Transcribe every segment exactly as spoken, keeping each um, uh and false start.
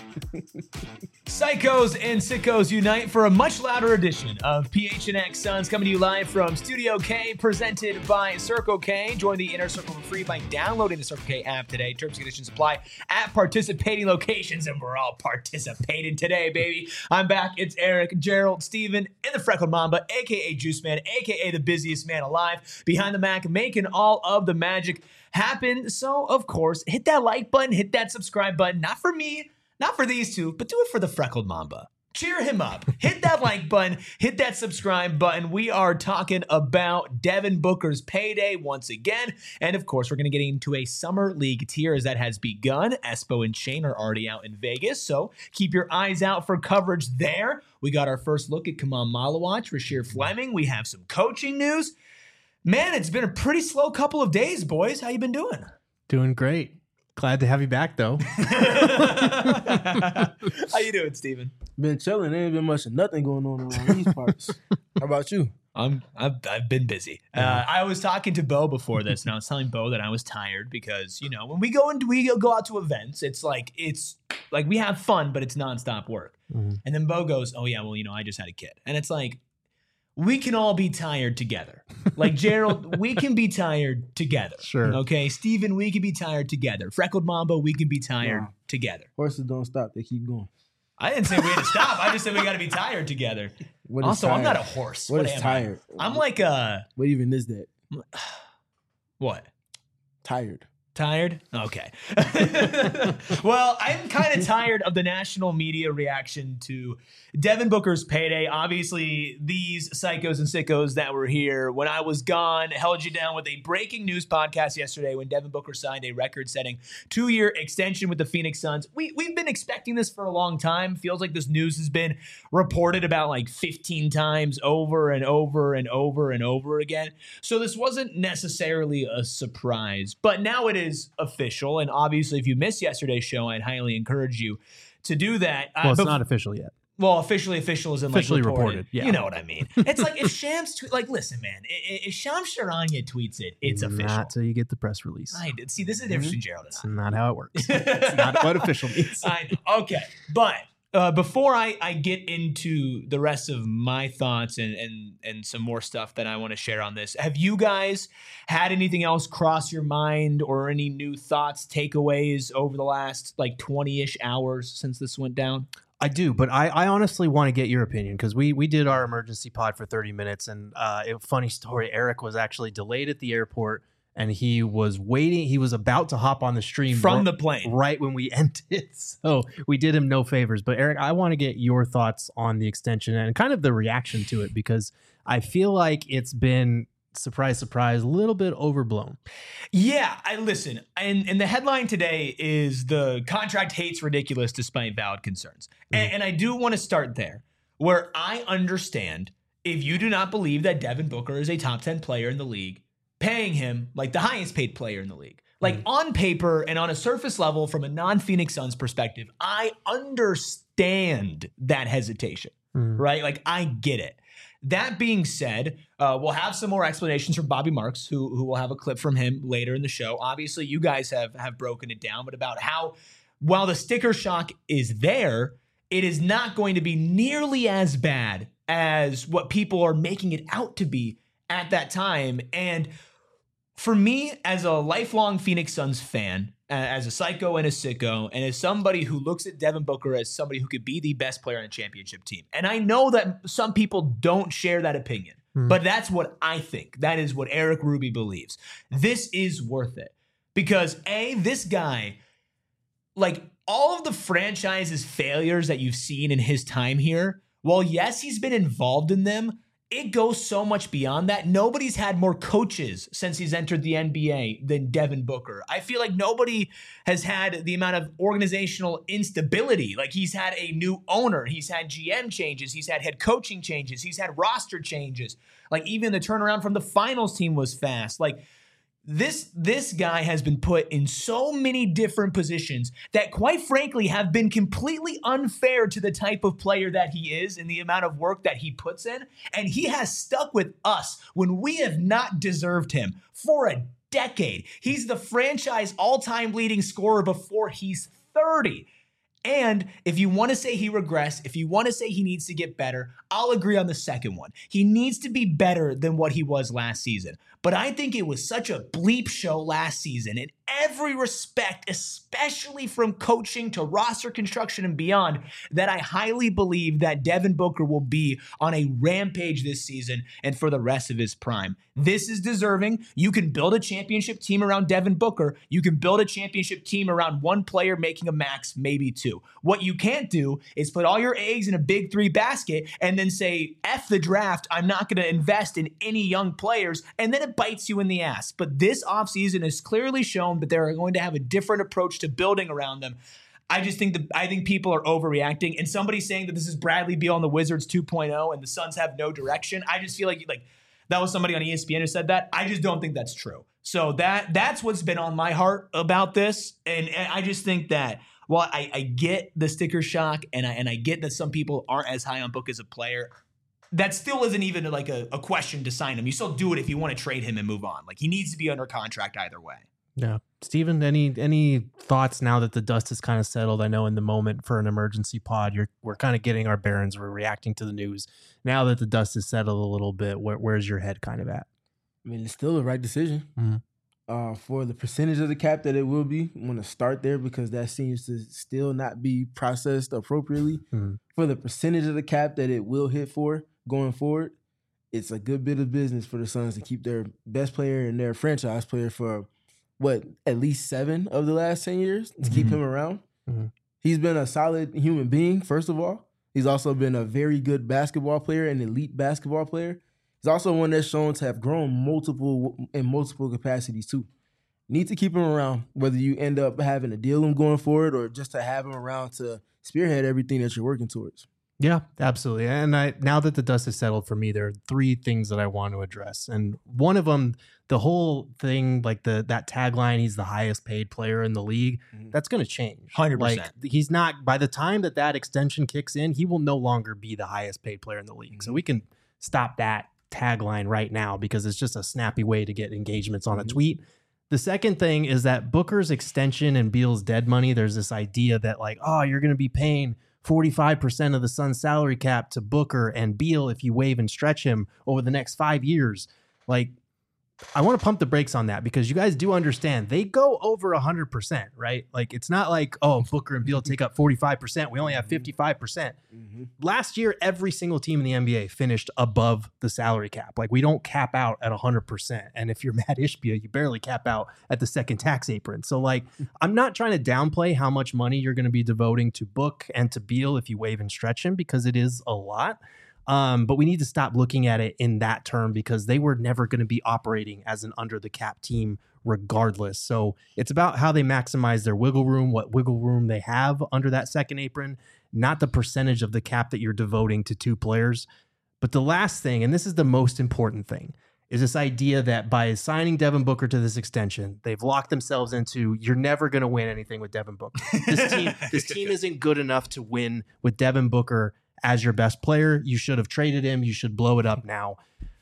Psychos and sickos unite for a much louder edition of P H N X Suns, coming to you live from Studio K, presented by Circle K. Join the Inner Circle for free by downloading the Circle K app today. Terms and conditions apply at participating locations, and we're all participating today, baby. I'm back. It's Eric, Gerald, Steven, and the Freckled Mamba, a k a. Juice Man, a k a the busiest man alive, behind the Mac, making all of the magic happen. So, of course, hit that like button, hit that subscribe button, not for me, not for these two, but do it for the Freckled Mamba. Cheer him up. Hit that like button. Hit that subscribe button. We are talking about Devin Booker's payday once again. And, of course, we're going to get into a Summer League tier as that has begun. Espo and Shane are already out in Vegas, so keep your eyes out for coverage there. We got our first look at Kamal Malawach, Rasheer Fleming. We have some coaching news. Man, it's been a pretty slow couple of days, boys. How you been doing? Doing great. Glad to have you back, though. How you doing, Steven? Been chilling. There ain't been much of nothing going on around these parts. How about you? I'm I've, I've been busy. Uh, I was talking to Bo before this, and I was telling Bo that I was tired because, you know, when we go into we go out to events, it's like it's like we have fun, but it's nonstop work. Mm-hmm. And then Bo goes, "Oh yeah, well, you know, I just had a kid," and it's like, we can all be tired together. Like, Gerald, we can be tired together. Sure. Okay, Steven, we can be tired together. Freckled Mamba, we can be tired yeah. together. Horses don't stop, they keep going. I didn't say we had to stop. I just said we got to be tired together. What also, tired? I'm not a horse. What, what is tired? I? I'm like a... What even is that? What? Tired. Tired? Okay. Well, I'm kind of tired of the national media reaction to Devin Booker's payday. Obviously, these psychos and sickos that were here when I was gone held you down with a breaking news podcast yesterday when Devin Booker signed a record-setting two-year extension with the Phoenix Suns. We, we've been expecting this for a long time. Feels like this news has been reported about like fifteen times over and over and over and over again. So this wasn't necessarily a surprise, but now it is official. And obviously, if you missed yesterday's show, I'd highly encourage you to do that. Well, uh, it's bef- not official yet. Well, officially official is in officially like reported. reported. Yeah. You know what I mean. It's like if Shams tweet, like, listen, man, if Shams Charania tweets it, it's official. Not till you get the press release. I did. See, this is the difference between Gerald and It's not how it works. It's not what official means. I know. Okay, but uh, before I, I get into the rest of my thoughts and and and some more stuff that I want to share on this, have you guys had anything else cross your mind or any new thoughts, takeaways over the last like twenty-ish hours since this went down? I do, but I, I honestly want to get your opinion because we we did our emergency pod for thirty minutes, and uh, it, funny story, Eric was actually delayed at the airport, and he was waiting. He was about to hop on the stream from r- the plane right when we ended. So we did him no favors. But Eric, I want to get your thoughts on the extension and kind of the reaction to it because I feel like it's been, surprise, surprise, a little bit overblown. Yeah, I listen. And, and the headline today is the contract hates ridiculous despite valid concerns. Mm-hmm. And, and I do want to start there where I understand if you do not believe that Devin Booker is a top ten player in the league, paying him like the highest paid player in the league. Like mm-hmm. on paper and on a surface level from a non-Phoenix Suns perspective, I understand that hesitation, mm-hmm. right? Like I get it. That being said, uh, we'll have some more explanations from Bobby Marks, who who will have a clip from him later in the show. Obviously, you guys have have broken it down, but about how while the sticker shock is there, it is not going to be nearly as bad as what people are making it out to be at that time. And for me, as a lifelong Phoenix Suns fan, as a psycho and a sicko, and as somebody who looks at Devin Booker as somebody who could be the best player on a championship team. And I know that some people don't share that opinion, mm. but that's what I think. That is what Eric Ruby believes. This is worth it. Because A, this guy, like all of the franchise's failures that you've seen in his time here, while yes, he's been involved in them, it goes so much beyond that. Nobody's had more coaches since he's entered the N B A than Devin Booker. I feel like nobody has had the amount of organizational instability. Like he's had a new owner. He's had G M changes. He's had head coaching changes. He's had roster changes. Like even the turnaround from the finals team was fast. Like This this guy has been put in so many different positions that, quite frankly, have been completely unfair to the type of player that he is and the amount of work that he puts in. And he has stuck with us when we have not deserved him for a decade. He's the franchise all-time leading scorer before he's thirty. And if you want to say he regressed, if you want to say he needs to get better, I'll agree on the second one. He needs to be better than what he was last season. But I think it was such a bleep show last season in every respect, especially from coaching to roster construction and beyond, that I highly believe that Devin Booker will be on a rampage this season and for the rest of his prime. This is deserving. You can build a championship team around Devin Booker. You can build a championship team around one player making a max, maybe two. What you can't do is put all your eggs in a big three basket and then say, F the draft, I'm not going to invest in any young players, and then it bites you in the ass. But this offseason has clearly shown that they're going to have a different approach to building around them. I just think that I think people are overreacting, and somebody saying that this is Bradley Beal and the Wizards two point oh and the Suns have no direction. I just feel like like that was somebody on E S P N who said that. I just don't think that's true. So that that's what's been on my heart about this, and, and I just think that while I, I get the sticker shock and I and I get that some people aren't as high on Book as a player, that still isn't even like a, a question to sign him. You still do it if you want to trade him and move on. Like, he needs to be under contract either way. Yeah. Steven, any any thoughts now that the dust has kind of settled? I know in the moment for an emergency pod, you're we're kind of getting our bearings. We're reacting to the news. Now that the dust has settled a little bit, where, where's your head kind of at? I mean, it's still the right decision. Mm-hmm. Uh, for the percentage of the cap that it will be, I'm going to start there because that seems to still not be processed appropriately. Mm-hmm. For the percentage of the cap that it will hit for going forward, it's a good bit of business for the Suns to keep their best player and their franchise player for, what, at least seven of the last ten years to mm-hmm. keep him around. Mm-hmm. He's been a solid human being, first of all. He's also been a very good basketball player, an elite basketball player. He's also one that's shown to have grown multiple in multiple capacities too. Need to keep him around, whether you end up having to deal him going forward or just to have him around to spearhead everything that you're working towards. Yeah, absolutely. And I now that the dust has settled for me, there are three things that I want to address. And one of them, the whole thing, like the that tagline, he's the highest paid player in the league, mm-hmm. that's going to change. one hundred percent. Like, he's not, by the time that that extension kicks in, he will no longer be the highest paid player in the league. Mm-hmm. So we can stop that tagline right now because it's just a snappy way to get engagements on mm-hmm. a tweet. The second thing is that Booker's extension and Beal's dead money, there's this idea that like, oh, you're going to be paying forty-five percent of the Suns salary cap to Booker and Beal if you waive and stretch him over the next five years. Like, I want to pump the brakes on that because you guys do understand they go over one hundred percent, right? Like, it's not like, oh, Booker and Beal take up forty-five percent. We only have fifty-five percent. Mm-hmm. Last year, every single team in the N B A finished above the salary cap. Like, we don't cap out at one hundred percent. And if you're Matt Ishbia, you barely cap out at the second tax apron. So, like, I'm not trying to downplay how much money you're going to be devoting to Book and to Beal if you waive and stretch him because it is a lot. Um, but we need to stop looking at it in that term because they were never going to be operating as an under the cap team regardless. So it's about how they maximize their wiggle room, what wiggle room they have under that second apron, not the percentage of the cap that you're devoting to two players. But the last thing, and this is the most important thing, is this idea that by signing Devin Booker to this extension, they've locked themselves into, you're never going to win anything with Devin Booker. This team, this team isn't good enough to win with Devin Booker as your best player. You should have traded him. You should blow it up now.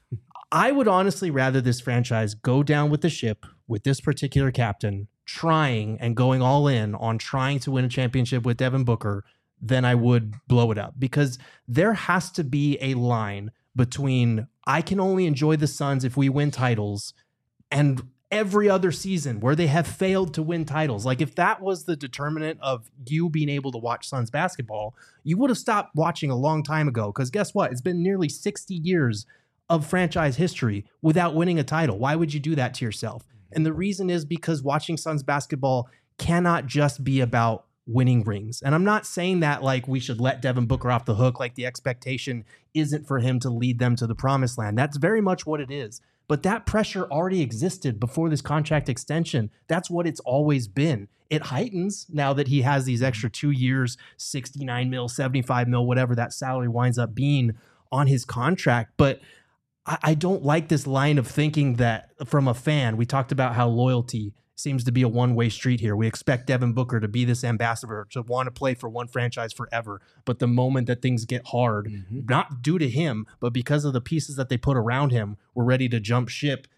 I would honestly rather this franchise go down with the ship with this particular captain trying and going all in on trying to win a championship with Devin Booker than I would blow it up, because there has to be a line between I can only enjoy the Suns if we win titles and every other season where they have failed to win titles. Like, if that was the determinant of you being able to watch Suns basketball, you would have stopped watching a long time ago. Because guess what? It's been nearly sixty years of franchise history without winning a title. Why would you do that to yourself? And the reason is because watching Suns basketball cannot just be about winning rings. And I'm not saying that like we should let Devin Booker off the hook, like the expectation isn't for him to lead them to the promised land. That's very much what it is. But that pressure already existed before this contract extension. That's what it's always been. It heightens now that he has these extra two years, sixty-nine mil, seventy-five mil, whatever that salary winds up being on his contract. But I, I don't like this line of thinking that from a fan, we talked about how loyalty seems to be a one-way street here. We expect Devin Booker to be this ambassador, to want to play for one franchise forever. But the moment that things get hard, mm-hmm. not due to him, but because of the pieces that they put around him, we're ready to jump ship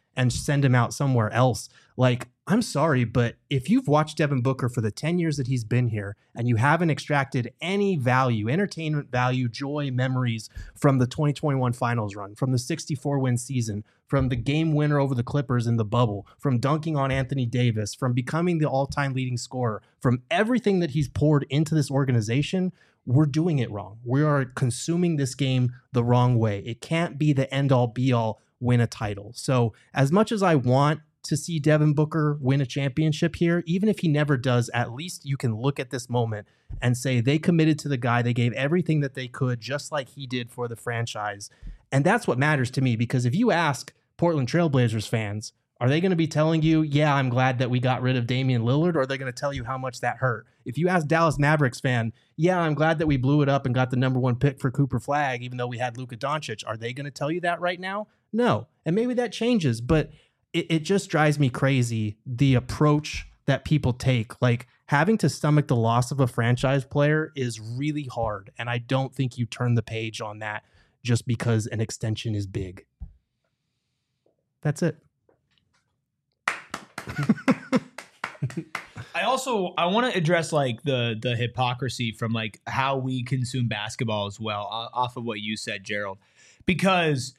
and send him out somewhere else. Like, I'm sorry, but if you've watched Devin Booker for the ten years that he's been here and you haven't extracted any value, entertainment value, joy, memories from the twenty twenty-one finals run, from the sixty-four win season, from the game winner over the Clippers in the bubble, from dunking on Anthony Davis, from becoming the all-time leading scorer, from everything that he's poured into this organization, we're doing it wrong. We are consuming this game the wrong way. It can't be the end-all, be-all, win a title. So as much as I want to see Devin Booker win a championship here, even if he never does, at least you can look at this moment and say they committed to the guy. They gave everything that they could, just like he did for the franchise. And that's what matters to me, because if you ask Portland Trailblazers fans, are they going to be telling you, yeah, I'm glad that we got rid of Damian Lillard, or are they going to tell you how much that hurt? If you ask Dallas Mavericks fan, yeah, I'm glad that we blew it up and got the number one pick for Cooper Flagg, even though we had Luka Doncic, are they going to tell you that right now? No. And maybe that changes, but it, it just drives me crazy, the approach that people take. Like, having to stomach the loss of a franchise player is really hard, and I don't think you turn the page on that just because an extension is big. That's it. I also I want to address like the the hypocrisy from like how we consume basketball as well, off of what you said, Gerald, because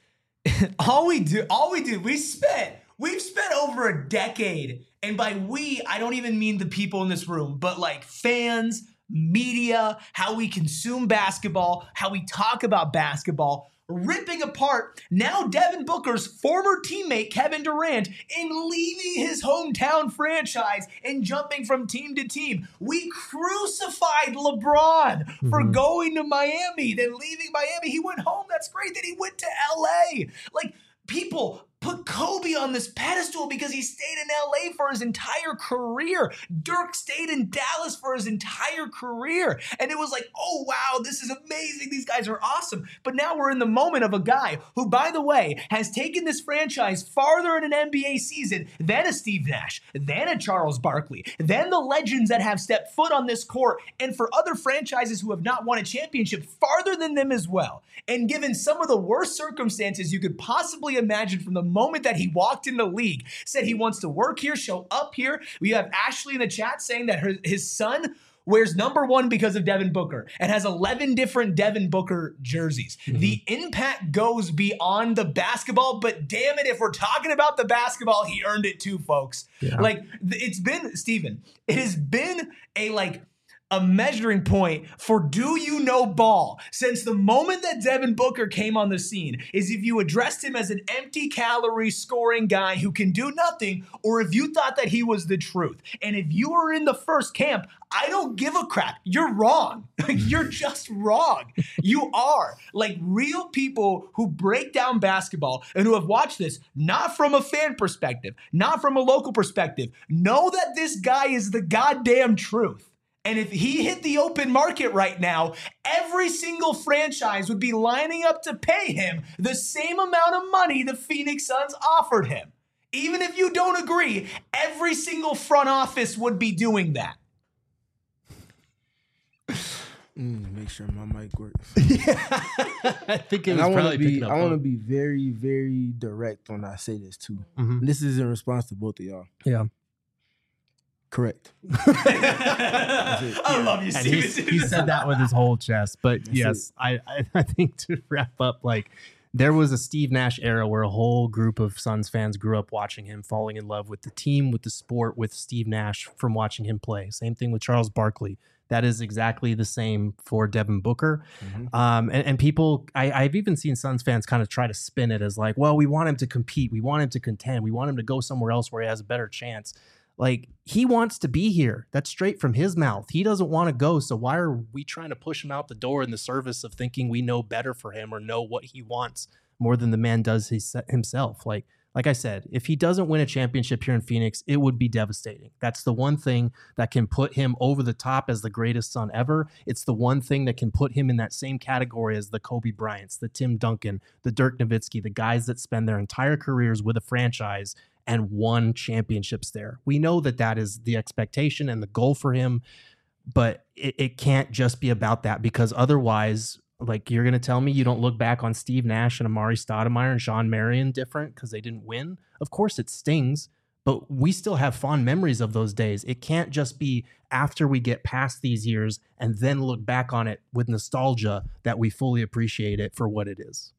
all we do all we do we spent we've spent over a decade, and by we I don't even mean the people in this room, but like fans, media, how we consume basketball, how we talk about basketball, ripping apart now Devin Booker's former teammate Kevin Durant in leaving his hometown franchise and jumping from team to team. We crucified LeBron mm-hmm. for going to Miami, then leaving Miami. He went home. That's great. Then he went to L A. Like, people put Kobe on this pedestal because he stayed in L A for his entire career. Dirk stayed in Dallas for his entire career. And it was like, oh, wow, this is amazing. These guys are awesome. But now we're in the moment of a guy who, by the way, has taken this franchise farther in an N B A season than a Steve Nash, than a Charles Barkley, than the legends that have stepped foot on this court, and for other franchises who have not won a championship, farther than them as well. And given some of the worst circumstances you could possibly imagine from the moment that he walked in the league, said he wants to work here, show up here. We have Ashley in the chat saying that her, his son wears number one because of Devin Booker and has eleven different Devin Booker jerseys. Mm-hmm. The impact goes beyond the basketball, but damn it, if we're talking about the basketball, he earned it too, folks. Yeah. Like, it's been, Steven, it has been a like, a measuring point for do you know ball since the moment that Devin Booker came on the scene, is if you addressed him as an empty calorie scoring guy who can do nothing, or if you thought that he was the truth. And if you were in the first camp, I don't give a crap. You're wrong. You're just wrong. You are. Like, real people who break down basketball and who have watched this, not from a fan perspective, not from a local perspective, know that this guy is the goddamn truth. And if he hit the open market right now, every single franchise would be lining up to pay him the same amount of money the Phoenix Suns offered him. Even if you don't agree, every single front office would be doing that. Mm, make sure my mic works. Yeah. I think it was I probably be, picking up. I want to be very, very direct when I say this too. Mm-hmm. This is in response to both of y'all. Yeah. Correct. I love you, Steven. He said that with his whole chest. But That's yes, I, I, I think to wrap up, like, there was a Steve Nash era where a whole group of Suns fans grew up watching him, falling in love with the team, with the sport, with Steve Nash from watching him play. Same thing with Charles Barkley. That is exactly the same for Devin Booker. Mm-hmm. Um, and, and people, I, I've even seen Suns fans kind of try to spin it as like, well, we want him to compete. We want him to contend. We want him to go somewhere else where he has a better chance. Like, he wants to be here. That's straight from his mouth. He doesn't want to go. So why are we trying to push him out the door in the service of thinking we know better for him or know what he wants more than the man does his, himself? Like, like I said, if he doesn't win a championship here in Phoenix, it would be devastating. That's the one thing that can put him over the top as the greatest Sun ever. It's the one thing that can put him in that same category as the Kobe Bryants, the Tim Duncan, the Dirk Nowitzki, the guys that spend their entire careers with a franchise and won championships there. We know that that is the expectation and the goal for him, but it, it can't just be about that, because otherwise Like, you're going to tell me you don't look back on Steve Nash and Amari Stoudemire and Sean Marion different because they didn't win? Of course it stings, but we still have fond memories of those days. It can't just be after we get past these years and then look back on it with nostalgia that we fully appreciate it for what it is.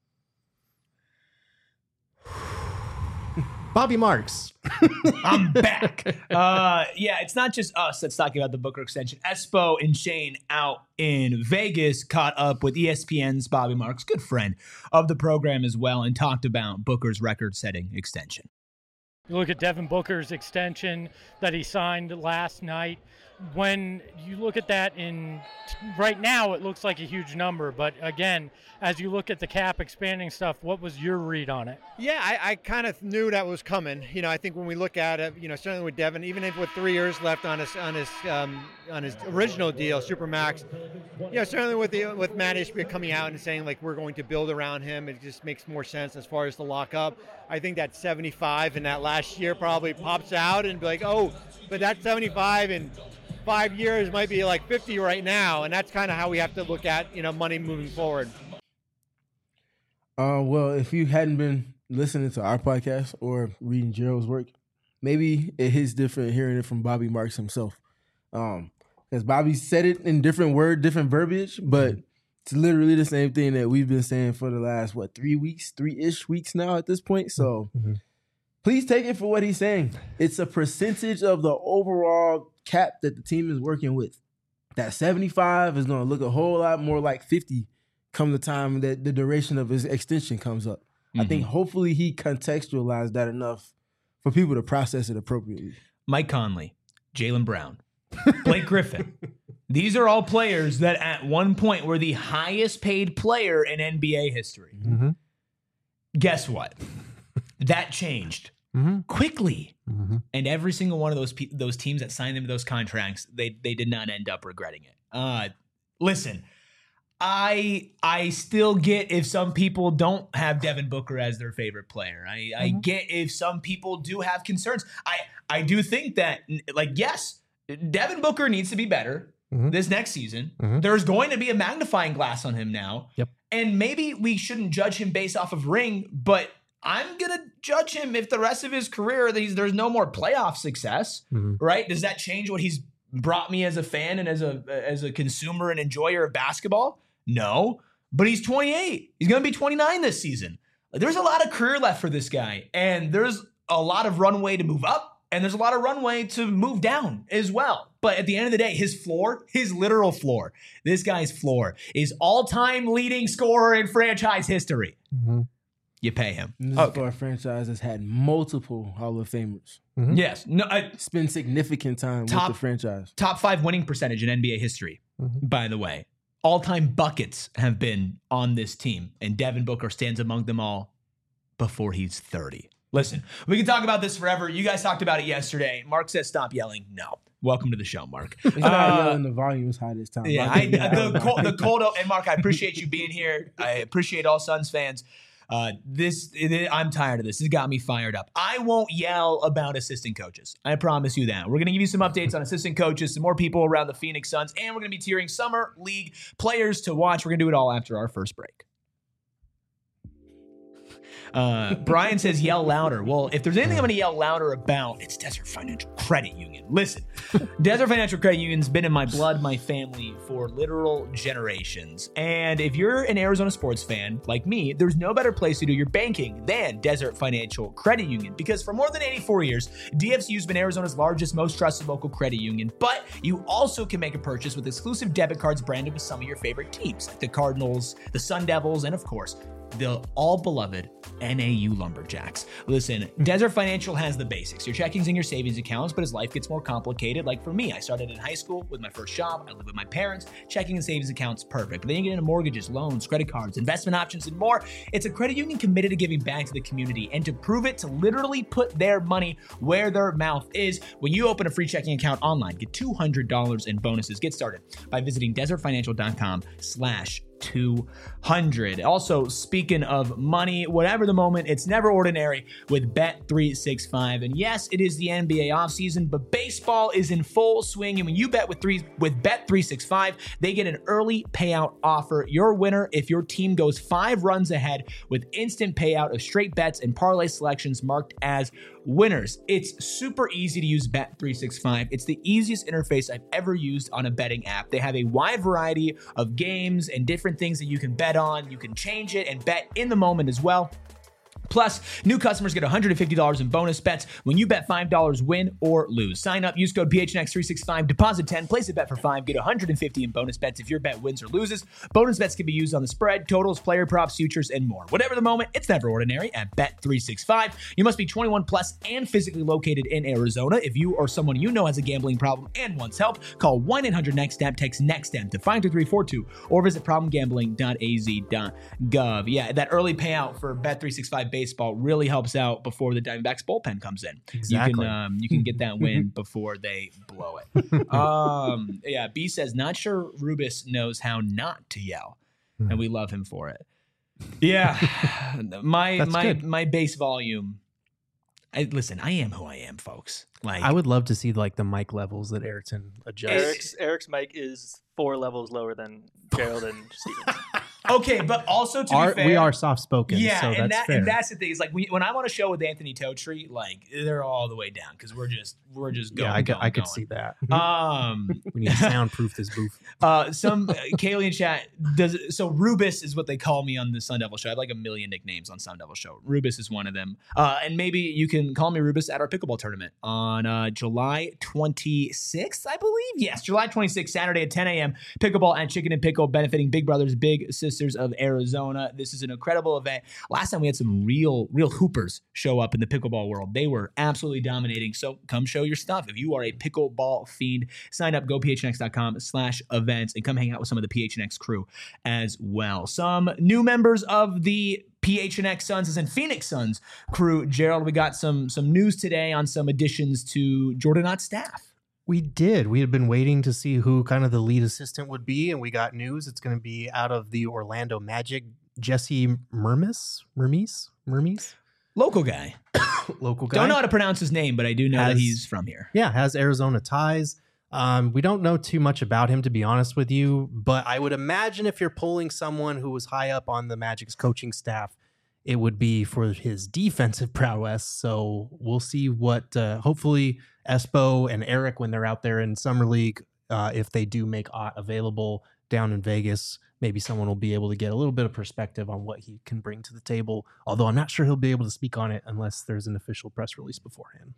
Bobby Marks. I'm back. Uh, yeah, it's not just us that's talking about the Booker extension. Espo and Shane out in Vegas caught up with E S P N's Bobby Marks, good friend of the program as well, and talked about Booker's record-setting extension. You look at Devin Booker's extension that he signed last night. When you look at that in right now, it looks like a huge number. But again, as you look at the cap expanding stuff, what was your read on it? Yeah, I, I kind of knew that was coming. You know, I think when we look at it, you know, certainly with Devin, even if with three years left on his on his um, on his original deal, Supermax, you know, certainly with the with Matt Ishbia coming out and saying like we're going to build around him, it just makes more sense as far as the lock up. I think that seventy-five in that last year probably pops out and be like, oh, but that seventy-five in five years might be like fifty right now, and that's kind of how we have to look at, you know, money moving forward. Uh, well, if you hadn't been listening to our podcast or reading Gerald's work, maybe it hits different hearing it from Bobby Marks himself. Um, because Bobby said it in different word, different verbiage, but it's literally the same thing that we've been saying for the last, what, three weeks, three-ish weeks now at this point. So mm-hmm. Please take it for what he's saying. It's a percentage of the overall cap that the team is working with. That seventy-five is going to look a whole lot more like fifty come the time that the duration of his extension comes up. Mm-hmm. I think hopefully he contextualized that enough for people to process it appropriately. Mike Conley, Jaylen Brown, Blake Griffin. These are all players that at one point were the highest paid player in N B A history. Mm-hmm. Guess what? That changed mm-hmm. quickly. Mm-hmm. And every single one of those pe- those teams that signed them to those contracts, they they did not end up regretting it. Uh, listen, I I still get if some people don't have Devin Booker as their favorite player. I, mm-hmm. I get if some people do have concerns. I, I do think that, like, yes, Devin Booker needs to be better mm-hmm. this next season. Mm-hmm. There's going to be a magnifying glass on him now. Yep. And maybe we shouldn't judge him based off of ring, but I'm going to judge him if the rest of his career, there's no more playoff success, mm-hmm. right? Does that change what he's brought me as a fan and as a as a consumer and enjoyer of basketball? No, but he's twenty-eight. He's going to be twenty-nine this season. There's a lot of career left for this guy, and there's a lot of runway to move up, and there's a lot of runway to move down as well. But at the end of the day, his floor, his literal floor, this guy's floor is all-time leading scorer in franchise history. Mm-hmm. You pay him. This okay. is for a franchise that's had multiple Hall of Famers. Mm-hmm. Yes. No, I, spend significant time top, with the franchise. Top five winning percentage in N B A history, mm-hmm. by the way. All-time buckets have been on this team, and Devin Booker stands among them all before he's thirty. Listen, we can talk about this forever. You guys talked about it yesterday. Mark says stop yelling. No. Welcome to the show, Mark. It's not uh, yelling. The volume is high this time. Yeah, I, the, cold, the cold, and Mark, I appreciate you being here. I appreciate all Suns fans. Uh, this it, I'm tired of this. This got me fired up. I won't yell about assistant coaches. I promise you that. We're going to give you some updates on assistant coaches, some more people around the Phoenix Suns, and we're going to be tiering summer league players to watch. We're going to do it all after our first break. Uh, Brian says, yell louder. Well, if there's anything I'm going to yell louder about, it's Desert Financial Credit Union. Listen, Desert Financial Credit Union's been in my blood, my family for literal generations. And if you're an Arizona sports fan like me, there's no better place to do your banking than Desert Financial Credit Union. Because for more than eighty-four years, D F C U's been Arizona's largest, most trusted local credit union. But you also can make a purchase with exclusive debit cards branded with some of your favorite teams, like the Cardinals, the Sun Devils, and of course, the all-beloved N A U Lumberjacks. Listen, Desert Financial has the basics, your checkings and your savings accounts, but as life gets more complicated, like for me, I started in high school with my first job, I live with my parents, checking and savings accounts, perfect. But then you get into mortgages, loans, credit cards, investment options, and more. It's a credit union committed to giving back to the community and to prove it, to literally put their money where their mouth is. When you open a free checking account online, get two hundred dollars in bonuses. Get started by visiting desertfinancial.com slash two hundred. Also, speaking of money, whatever the moment, it's never ordinary with Bet three sixty-five. And yes, it is the N B A offseason, but baseball is in full swing. And when you bet with three with Bet three sixty-five, they get an early payout offer. Your winner if your team goes five runs ahead with instant payout of straight bets and parlay selections marked as winners. It's super easy to use Bet three sixty-five. It's the easiest interface I've ever used on a betting app. They have a wide variety of games and different things that you can bet on. You can change it and bet in the moment as well. Plus, new customers get one hundred fifty dollars in bonus bets when you bet five dollars, win or lose. Sign up, use code P H N X three sixty-five, deposit ten, place a bet for five, get one hundred fifty dollars in bonus bets if your bet wins or loses. Bonus bets can be used on the spread, totals, player props, futures, and more. Whatever the moment, it's never ordinary at Bet three sixty-five. You must be twenty-one plus and physically located in Arizona. If you or someone you know has a gambling problem and wants help, call one eight hundred next step, text NEXTSTEP to five two three four two, or visit problem gambling dot a z dot gov. Yeah, that early payout for Bet three sixty-five baseball really helps out before the Diamondbacks bullpen comes in. Exactly. You can um, you can get that win before they blow it. Um, yeah, B says, not sure Rubis knows how not to yell, and we love him for it. Yeah, my That's my good. my bass volume. I, listen, I am who I am, folks. Like I would love to see like the mic levels that Ayrton adjusts. Eric's Eric's mic is four levels lower than Gerald and Steven. okay, but also to Our- be fair, we are soft spoken, Yeah, so and that's that fair. and that's the thing. Is like when, when I'm on a show with Anthony Totri, like they're all the way down because we're just we're just going. yeah, I could, going, I could going. see that. Um, we need to soundproof this booth. uh, some Kaylee in chat does so. Rubis is what they call me on the Sun Devil Show. I have like a million nicknames on Sun Devil Show. Rubis is one of them. Uh, and maybe you can call me Rubis at our pickleball tournament on uh, July twenty-sixth, I believe. Yes, July twenty-sixth, Saturday at ten a.m. Pickleball and Chicken and Pickle, benefiting Big Brothers Big Sisters of Arizona. This is an incredible event. Last time we had some real, real hoopers show up in the pickleball world. They were absolutely dominating. So come show your stuff. If you are a pickleball fiend, sign up, go P H N X dot com slash events and come hang out with some of the P H N X crew as well. Some new members of the P H N X Suns and Phoenix Suns crew. Gerald, we got some some news today on some additions to Jordan Ott's staff. We did. We had been waiting to see who kind of the lead assistant would be, and we got news. It's going to be out of the Orlando Magic, Jesse Mermis, Mermis, Mermis, Local guy. local guy. Don't know how to pronounce his name, but I do know Has- that he's from here. Yeah, has Arizona ties. Um, we don't know too much about him, to be honest with you, but I would imagine if you're pulling someone who was high up on the Magic's coaching staff, it would be for his defensive prowess. So we'll see what, uh, hopefully, Espo and Eric, when they're out there in Summer League, uh, if they do make Ott available down in Vegas, maybe someone will be able to get a little bit of perspective on what he can bring to the table. Although I'm not sure he'll be able to speak on it unless there's an official press release beforehand.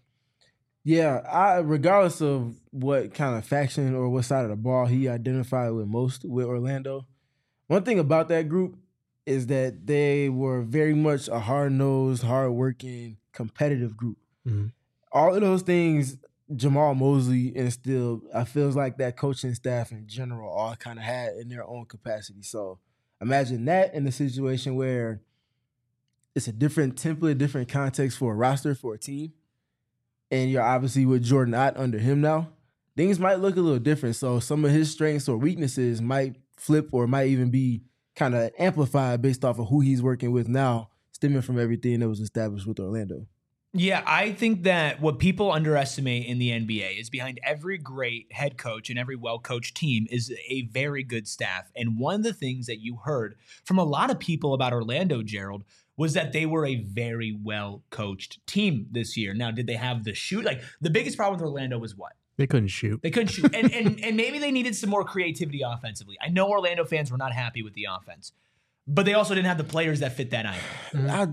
Yeah, I regardless of what kind of faction or what side of the ball he identified with most with Orlando, one thing about that group is that they were very much a hard-nosed, hard-working, competitive group. Mhm. All of those things Jamal Mosley instilled, I feels like that coaching staff in general all kind of had in their own capacity. So imagine that in a situation where it's a different template, different context for a roster, for a team, and you're obviously with Jordan Ott under him now, things might look a little different. So some of his strengths or weaknesses might flip or might even be kind of amplified based off of who he's working with now, stemming from everything that was established with Orlando. Yeah, I think that what people underestimate in the N B A is behind every great head coach and every well-coached team is a very good staff. And one of the things that you heard from a lot of people about Orlando, Gerald, was that they were a very well-coached team this year. Now, did they have the shoot? Like, the biggest problem with Orlando was what? They couldn't shoot. They couldn't shoot. and, and, and maybe they needed some more creativity offensively. I know Orlando fans were not happy with the offense, but they also didn't have the players that fit that either. I,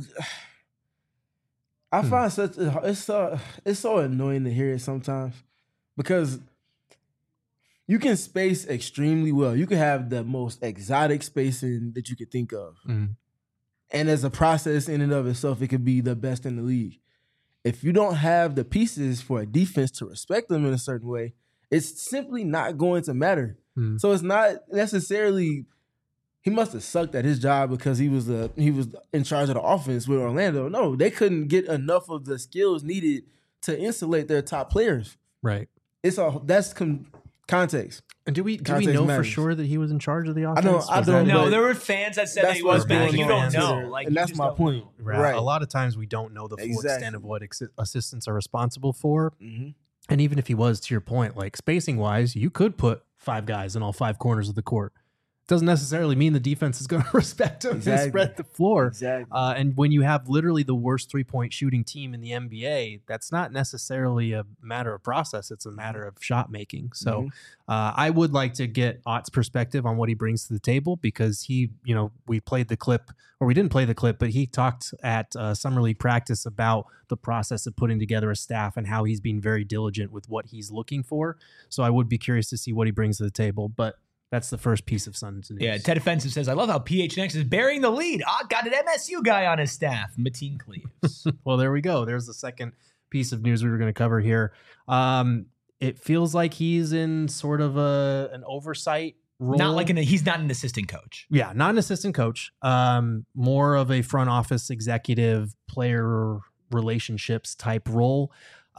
I Hmm. find such it's so it's so annoying to hear it sometimes because you can space extremely well. You can have the most exotic spacing that you could think of, Mhm. and as a process in and of itself, it could be the best in the league. If you don't have the pieces for a defense to respect them in a certain way, it's simply not going to matter. Hmm. So it's not necessarily. He must have sucked at his job because he was the he was in charge of the offense with Orlando. No, they couldn't get enough of the skills needed to insulate their top players. Right. It's a that's com, Context. And do we do we Context know matters. for sure that he was in charge of the I offense? don't- Was I that- don't No, but there were fans that said that that's he was, what's but like, going you on don't know. Twitter, Like, and you that's just my don't point. know. Right. Right. A lot of times we don't know the full Exactly. extent of what ex- assistants are responsible for. hmm And even if he was, to your point, like spacing wise, you could put five guys in all five corners of the court. Doesn't necessarily mean the defense is going to respect him Exactly. and spread the floor. Exactly. Uh, and when you have literally the worst three point shooting team in the N B A, that's not necessarily a matter of process. It's a matter of shot making. So Mhm. uh, I would like to get Ott's perspective on what he brings to the table because he, you know, we played the clip or we didn't play the clip, but he talked at uh, Summer League practice about the process of putting together a staff and how he's being very diligent with what he's looking for. So I would be curious to see what he brings to the table. But that's the first piece of Suns news. Yeah, Ted Offensive says, I love how P H N X is bearing the lead. Ah, got an M S U guy on his staff, Mateen Cleaves. Well, there we go. There's the second piece of news we were going to cover here. Um, it feels like he's in sort of a an oversight role. Not like an, he's not an assistant coach. yeah, not an assistant coach. Um, more of a front office executive, player relationships type role.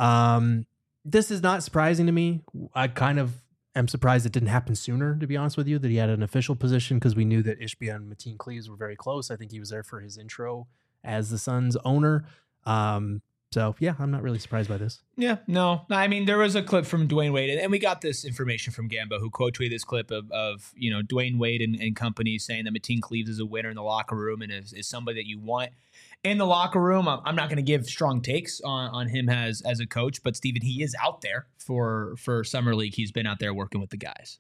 Um, this is not surprising to me. I kind of am surprised it didn't happen sooner, to be honest with you, that he had an official position because we knew that Ishbia and Mateen Cleaves were very close. I think he was there for his intro as the Suns owner. Um, so yeah, I'm not really surprised by this. Yeah, no. I mean, there was a clip from Dwayne Wade, and we got this information from Gambo, who quote tweeted this clip of, of you know, Dwayne Wade and, and company saying that Mateen Cleaves is a winner in the locker room and is, is somebody that you want in the locker room. I'm, I'm not going to give strong takes on, on him as as a coach, but Steven, he is out there for for Summer League. He's been out there working with the guys.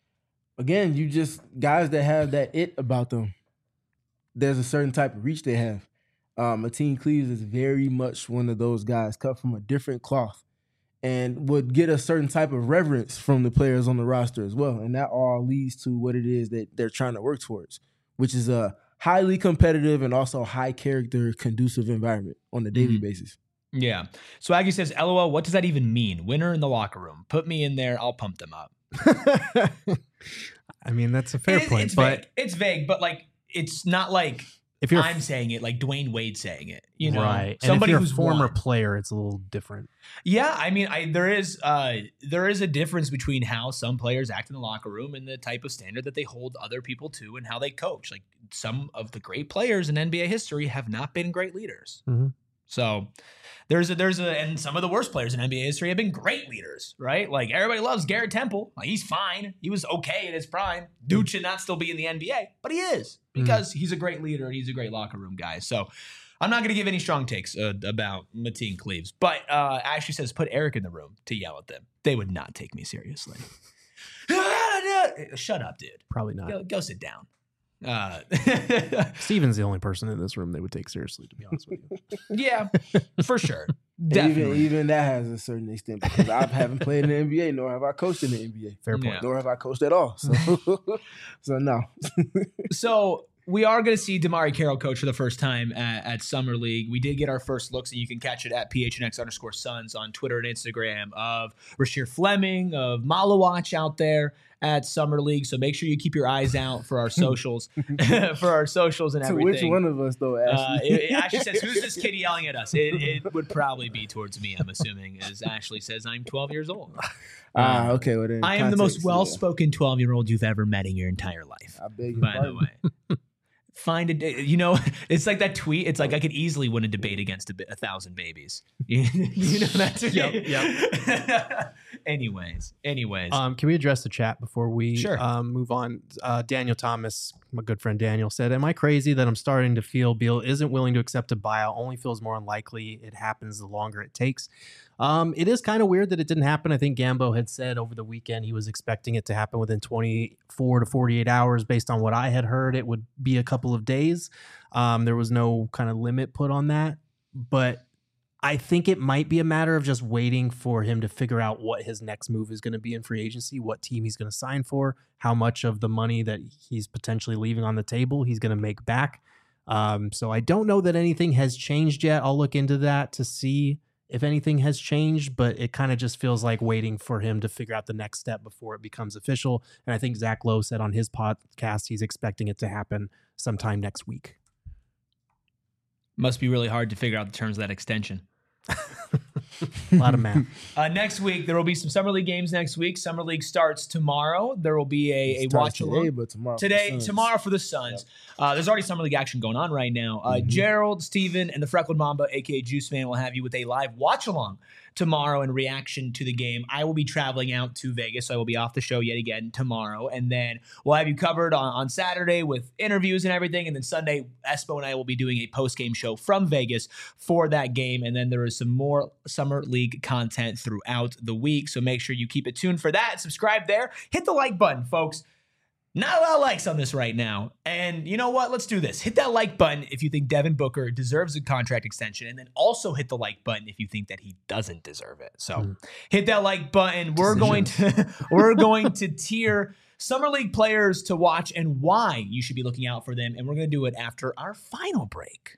Again, you just guys that have that it about them. There's a certain type of reach they have. Um, Mateen Cleaves is very much one of those guys cut from a different cloth and would get a certain type of reverence from the players on the roster as well. And that all leads to what it is that they're trying to work towards, which is a highly competitive and also high character, conducive environment on a daily Mhm. basis. Yeah. Swaggy says, LOL, what does that even mean? Winner in the locker room. Put me in there. I'll pump them up. I mean, that's a fair It is- point, it's but vague. It's vague, but like, it's not like if you're I'm saying it, like Dwayne Wade saying it. You know, right, somebody and if you're who's a former won. player, it's a little different. Yeah, I mean, I there is uh there is a difference between how some players act in the locker room and the type of standard that they hold other people to and how they coach. Like some of the great players in N B A history have not been great leaders. Mhm. So there's a there's a and some of the worst players in N B A history have been great leaders, right? Like everybody loves Garrett Temple. Like he's fine. He was okay in his prime. Dude should not still be in the N B A, but he is because he's a great leader and he's a great locker room guy. So I'm not going to give any strong takes uh, about Mateen Cleaves, but uh, Ashley says put Eric in the room to yell at them. They would not take me seriously. Shut up, dude. Probably not. Go, go sit down. Uh, Steven's the only person in this room they would take seriously, to be honest with you. yeah, for sure. And Definitely. Even, even that has a certain extent because I haven't played in the N B A, nor have I coached in the N B A. Fair point. Yeah. Nor have I coached at all. So, so no. So we are going to see Damari Carroll coach for the first time at, at Summer League. We did get our first looks, and you can catch it at P H N X underscore Suns on Twitter and Instagram of Rasheer Fleming, of Malawatch out there at Summer League. So make sure you keep your eyes out for our socials, for our socials and To everything. which one of us, though, Uh, Ashley? it, it actually says, who's this kid yelling at us? It, it would probably be towards me, I'm assuming, as Ashley says, I'm twelve years old. Ah, okay. Well, then I am the most context, yeah. well-spoken twelve-year-old you've ever met in your entire life. I beg your By the pardon. way, find a day. You know, it's like that tweet. It's like I could easily win a debate against a, bi- a thousand babies. You, you know that tweet? Yep, yep. anyways, anyways. Um, can we address the chat before we Sure. um, move on? Uh, Daniel Thomas, my good friend Daniel, said, am I crazy that I'm starting to feel Beal isn't willing to accept a buyout? Only feels more unlikely it happens the longer it takes. Um, it is kind of weird that it didn't happen. I think Gambo had said over the weekend he was expecting it to happen within twenty-four to forty-eight hours. Based on what I had heard, it would be a couple of days. Um, there was no kind of limit put on that. But I think it might be a matter of just waiting for him to figure out what his next move is going to be in free agency, what team he's going to sign for, how much of the money that he's potentially leaving on the table he's going to make back. Um, so I don't know that anything has changed yet. I'll look into that to see if anything has changed, but it kind of just feels like waiting for him to figure out the next step before it becomes official. And I think Zach Lowe said on his podcast he's expecting it to happen sometime next week. Must be really hard to figure out the terms of that extension. A lot of math. Uh, next week, there will be some Summer League games next week. Summer League starts tomorrow. There will be a, a watch today, along. but tomorrow. for Today, the Suns. tomorrow for the Suns. Uh, there's already Summer League action going on right now. Uh, Mhm. Gerald, Steven, and the Freckled Mamba, a k a. Juice Man, will have you with a live watch-along tomorrow in reaction to the game. I will be traveling out to Vegas, so I will be off the show yet again tomorrow. And then we'll have you covered on, on Saturday with interviews and everything. And then Sunday, Espo and I will be doing a post-game show from Vegas for that game. And then there is some more Summer League content throughout the week. So make sure you keep it tuned for that. Subscribe there. Hit the like button, folks. Not a lot of likes on this right now. And you know what? Let's do this. Hit that like button if you think Devin Booker deserves a contract extension. And then also hit the like button if you think that he doesn't deserve it. So Mm. hit that like button. We're going to we're going to tier Summer League players to watch and why you should be looking out for them. And we're going to do it after our final break.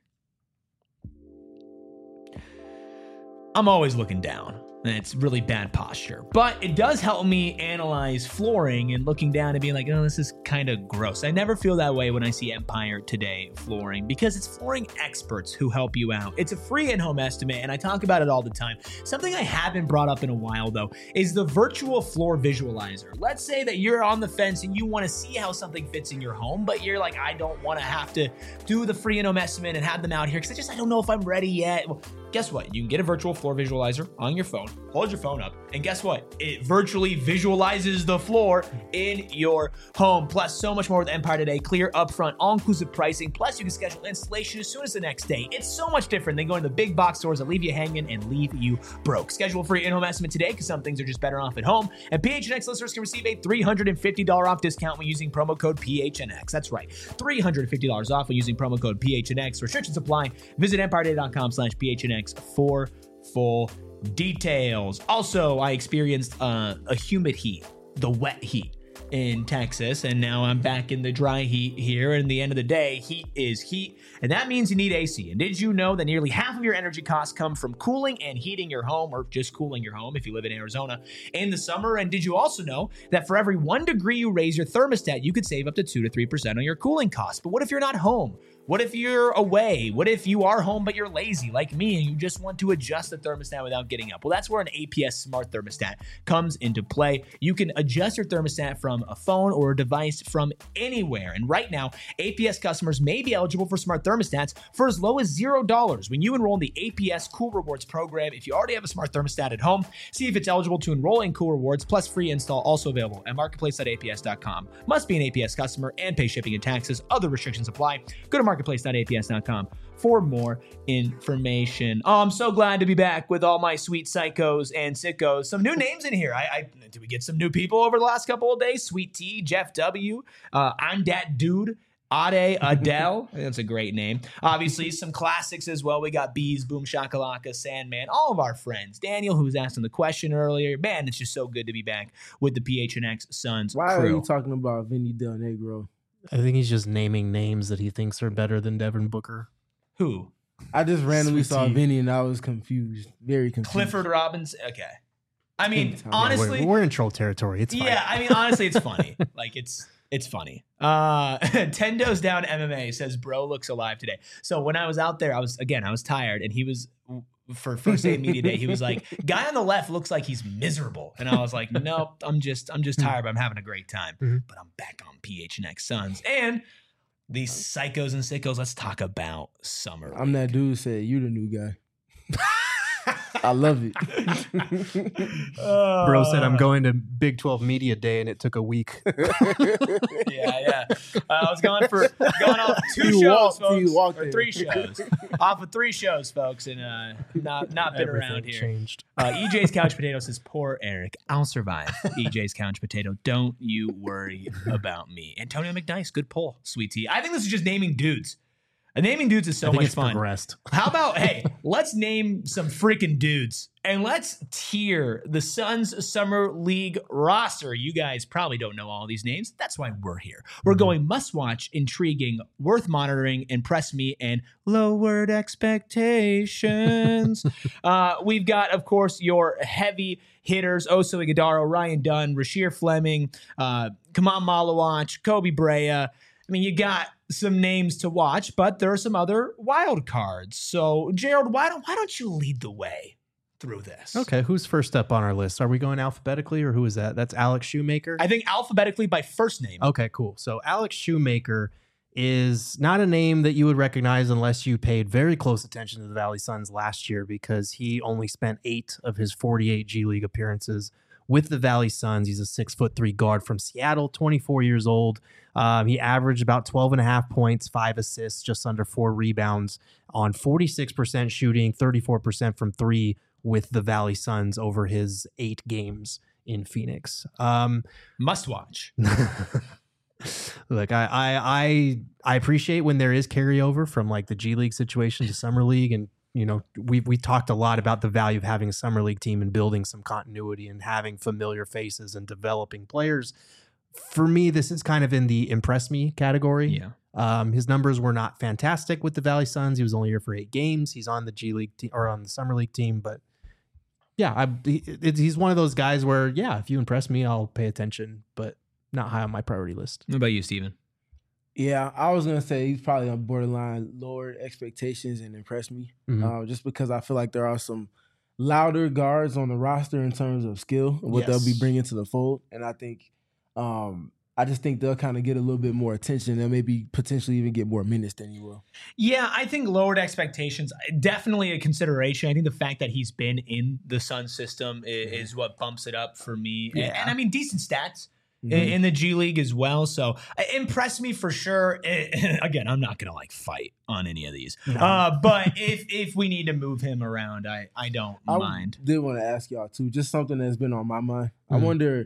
I'm always looking down. And it's really bad posture. But it does help me analyze flooring and looking down and being like, oh, this is kind of gross. I never feel that way when I see Empire Today flooring because it's flooring experts who help you out. It's a free in-home estimate, and I talk about it all the time. Something I haven't brought up in a while, though, is the virtual floor visualizer. Let's say that you're on the fence and you want to see how something fits in your home, but you're like, I don't want to have to do the free in-home estimate and have them out here because I just I don't know if I'm ready yet. Well, guess what? You can get a virtual floor visualizer on your phone. Hold your phone up, and guess what? It virtually visualizes the floor in your home. Plus, so much more with Empire Today. Clear, upfront, all-inclusive pricing. Plus, you can schedule installation as soon as the next day. It's so much different than going to the big box stores that leave you hanging and leave you broke. Schedule a free in-home estimate today because some things are just better off at home. And P H N X listeners can receive a three hundred fifty dollars off discount when using promo code P H N X. That's right, three hundred fifty dollars off when using promo code P H N X. Restrictions apply. Visit empire day dot com slash P H N X for full details. Also, I experienced uh, a humid heat, the wet heat in Texas, and now I'm back in the dry heat here. And at the end of the day, heat is heat, and that means you need A C. And did you know that nearly half of your energy costs come from cooling and heating your home, or just cooling your home if you live in Arizona in the summer? And did you also know that for every one degree you raise your thermostat, you could save up to two to three percent on your cooling costs? But what if you're not home? What if you're away? What if you are home but you're lazy like me and you just want to adjust the thermostat without getting up? Well, that's where an A P S smart thermostat comes into play. You can adjust your thermostat from a phone or a device from anywhere. And right now, A P S customers may be eligible for smart thermostats for as low as zero dollars when you enroll in the A P S Cool Rewards program. If you already have a smart thermostat at home, see if it's eligible to enroll in Cool Rewards plus free install, also available at marketplace dot A P S dot com. Must be an A P S customer and pay shipping and taxes. Other restrictions apply. Go to marketplace dot A P S dot com for more information. Oh, I'm so glad to be back with all my sweet psychos and sickos. Some new names in here. I, I did we get some new people over the last couple of days? Sweet T, Jeff W, uh, I'm that dude. Ade Adele, I think that's a great name. Obviously, some classics as well. We got Bees, Boom Shakalaka, Sandman, all of our friends. Daniel, who was asking the question earlier. Man, it's just so good to be back with the P H N X Suns Why crew. are you talking about Vinny Del Negro? I think he's just naming names that he thinks are better than Devin Booker. Who? I just randomly Sweet saw tea. Vinny and I was confused, very confused. Clifford Robbins. Okay. I mean, Yeah, Yeah, honestly, we're, we're in troll territory. It's fine. yeah, I mean, honestly, it's funny. Like, it's it's funny. Uh, Tendo's Down M M A says, bro looks alive today. So when I was out there, I was, again, I was tired, and he was, for first day of media day, he was like, guy on the left looks like he's miserable. And I was like, nope, I'm just, I'm just tired, but I'm having a great time. Mhm. But I'm back on P H N X Suns. And these psychos and sickos, let's talk about summer. I'm that dude who said, you the new guy. I love it. Uh, Bro said, I'm going to Big twelve Media Day, and it took a week. Yeah, yeah. Uh, I was going for going off two You shows, walked- folks, you walked or in. three shows, off of three shows, folks, and uh, not not been Everything around here. changed. Uh, E J's Couch Potato says, "Poor Eric, I'll survive." E J's Couch Potato, don't you worry about me. Antonio McNice, good pull, sweet tea. I think this is just naming dudes. Uh, naming dudes is so I think much it's fun. progressed. How about, hey, let's name some freaking dudes and let's tier the Suns Summer League roster. You guys probably don't know all these names. That's why we're here. We're Mhm. going must watch, intriguing, worth monitoring, impress me, and lowered expectations. uh, we've got, of course, your heavy hitters: Oso Iguodala, Ryan Dunn, Rasheer Fleming, uh, Kaman Malawach, Kobe Brea. I mean, you got some names to watch, but there are some other wild cards. So, Gerald, why don't why don't you lead the way through this. Okay, who's first up on our list? Are we going alphabetically, or who is that? That's Alex Shoemaker. I think alphabetically by first name. Okay, cool. So Alex Shoemaker is not a name that you would recognize unless you paid very close attention to the Valley Suns last year, because he only spent eight of his forty-eight G League appearances with the Valley Suns. He's a six foot three guard from Seattle, twenty-four years old. Um, he averaged about twelve and a half points, five assists, just under four rebounds on forty-six percent shooting, thirty-four percent from three with the Valley Suns over his eight games in Phoenix. Um, Must watch. Look, I, I I I appreciate when there is carryover from like the G League situation to Summer League, and you know we we talked a lot about the value of having a Summer League team and building some continuity and having familiar faces and developing players. For me, this is kind of in the impress me category. Yeah. Um, his numbers were not fantastic with the Valley Suns. He was only here for eight games. He's on the G League te- or on the Summer League team, but yeah, I, he, it, he's one of those guys where yeah, if you impress me, I'll pay attention, but not high on my priority list. What about you, Steven? Yeah, I was gonna say he's probably on borderline lowered expectations and impressed me, Mhm. uh, just because I feel like there are some louder guards on the roster in terms of skill and what Yes. they'll be bringing to the fold, and I think, um, I just think they'll kind of get a little bit more attention and maybe potentially even get more minutes than he will. Yeah, I think lowered expectations, definitely a consideration. I think the fact that he's been in the Sun system is, is what bumps it up for me. Yeah. And, and I mean, decent stats. Mhm. in the G League as well. So uh, impress me for sure. Uh, again, I'm not going to like fight on any of these. No. Uh, but if if we need to move him around, I, I don't I mind. did want to ask y'all too, just something that's been on my mind. I Mhm. wonder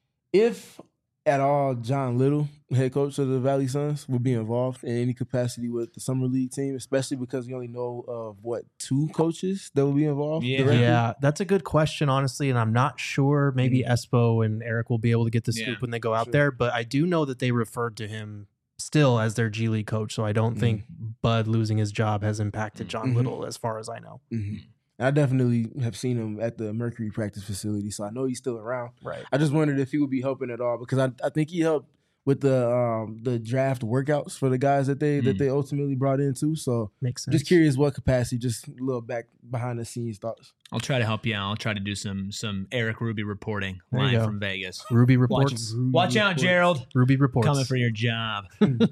if at all John Little, head coach of the Valley Suns, would be involved in any capacity with the Summer League team, especially because we only know of what two coaches that will be involved. Yeah. directly? Yeah, that's a good question, honestly, and I'm not sure. Maybe Espo and Eric will be able to get the scoop Yeah, when they go out sure. there, but I do know that they referred to him still as their G League coach, so I don't think Bud losing his job has impacted John Mhm. Little as far as I know. Mhm. I definitely have seen him at the Mercury practice facility, so I know he's still around. Right. I just wondered if he would be helping at all because I, I think he helped with the um, the draft workouts for the guys that they that Mm. they ultimately brought in too. So Makes sense. just curious what capacity, just a little back behind the scenes thoughts. I'll try to help you out. I'll try to do some some Eric Ruby reporting There you live go. from Vegas. Ruby Watch, reports. watch out, Gerald. Ruby reports. Coming for your job.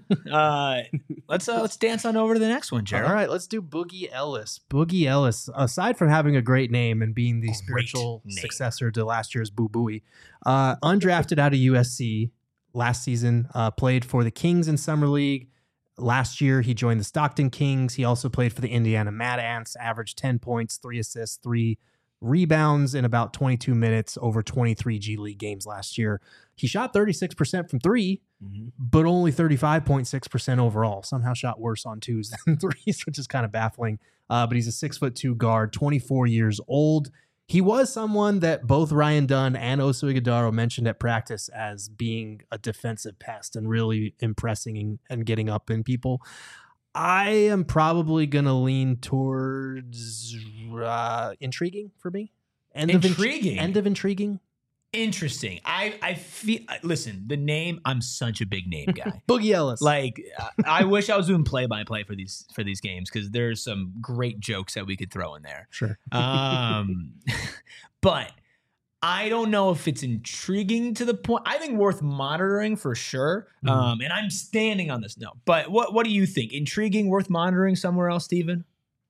uh, let's uh, let's dance on over to the next one, Gerald. All right, let's do Boogie Ellis. Boogie Ellis, aside from having a great name and being the Great spiritual name. successor to last year's Boo Booey, uh, undrafted out of U S C last season, uh, played for the Kings in Summer League. Last year, he joined the Stockton Kings. He also played for the Indiana Mad Ants, averaged ten points, three assists, three rebounds in about twenty-two minutes over twenty-three G League games last year. He shot thirty-six percent from three, but only thirty-five point six percent overall. Somehow shot worse on twos than threes, which is kind of baffling. Uh, but he's a six foot two guard, twenty-four years old. He was someone that both Ryan Dunn and Oso Ighodaro mentioned at practice as being a defensive pest and really impressing and, and getting up in people. I am probably going to lean towards uh, intriguing for me. End Of Intriguing? int- end of intriguing. Interesting. I I feel. Listen, the name. I'm such a big name guy. Boogie Ellis. Like, I wish I was doing play by play for these for these games because there's some great jokes that we could throw in there. Sure. Um, but I don't know if it's intriguing to the point. I think worth monitoring for sure. Mhm. Um, and I'm standing on this. No, but what what do you think? Intriguing, worth monitoring somewhere else, Steven?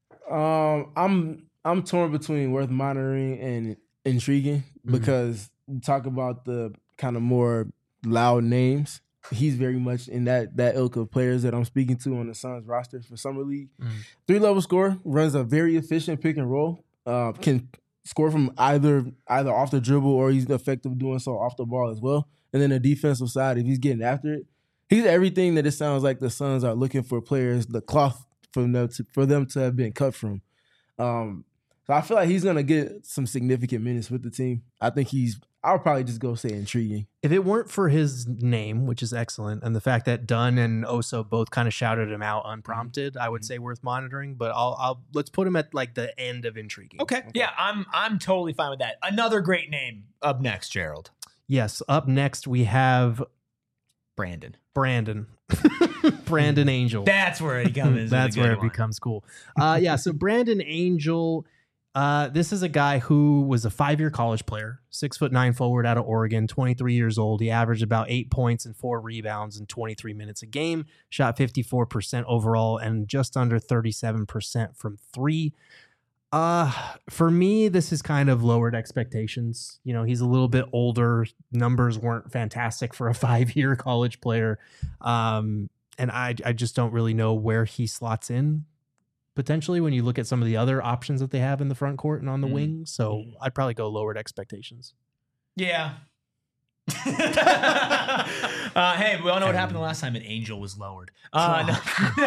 Um, I'm I'm torn between worth monitoring and intriguing Mhm. because you talk about the kind of more loud names. He's very much in that that ilk of players that I'm speaking to on the Suns roster for Summer League. Mhm. Three level scorer, runs a very efficient pick and roll. Uh, can score from either either off the dribble or he's effective doing so off the ball as well. And then the defensive side, if he's getting after it, he's everything that it sounds like the Suns are looking for players, the cloth for them to, for them to have been cut from. Um, so I feel like he's gonna get some significant minutes with the team. I think he's. I'll probably just go say intriguing. If it weren't for his name, which is excellent, and the fact that Dunn and Oso both kind of shouted him out unprompted, I would say worth monitoring. But I'll, I'll let's put him at like the end of intriguing. Okay. Yeah, I'm I'm totally fine with that. Another great name up next, Gerald. Yes. Up next we have Brandon. Brandon. Brandon Angel. That's where it comes. That's where it becomes cool. Uh, yeah. So Brandon Angel Uh, this is a guy who was a five-year college player, six foot nine forward out of Oregon, twenty-three years old. He averaged about eight points and four rebounds in twenty-three minutes a game, shot fifty-four percent overall and just under thirty-seven percent from three. Uh, for me, this is kind of lowered expectations. You know, he's a little bit older. Numbers weren't fantastic for a five-year college player. Um, and I, I just don't really know where he slots in potentially when you look at some of the other options that they have in the front court and on the mm. wing. So I'd probably go lowered expectations. Yeah. uh, hey, we all know what happened the last time an angel was lowered. Uh, no.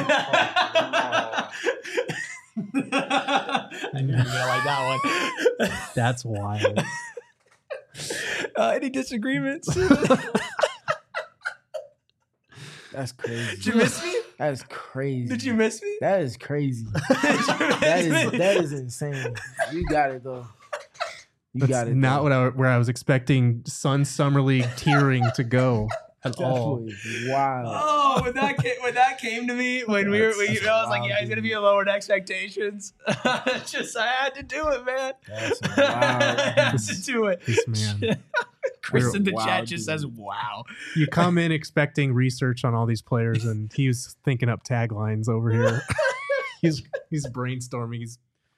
I knew you were gonna like that one. That's wild. Uh, any disagreements? That's crazy. Did you miss me? That is crazy. Did you miss me? That is crazy. that is that is insane. You got it though. You That's got it. Not though. what I where I was expecting Sun Summer League tiering to go at all. Wow. Oh, when that came, when that came to me, when we were, we, I was like, yeah, he's gonna be a lowered expectations. Just I had to do it, man. That's wild. I had to do it. This man. Chris in the Wow, chat just dude. says, "Wow." You come in expecting research on all these players, and he was thinking up taglines over here. he's he's brainstorming. He's,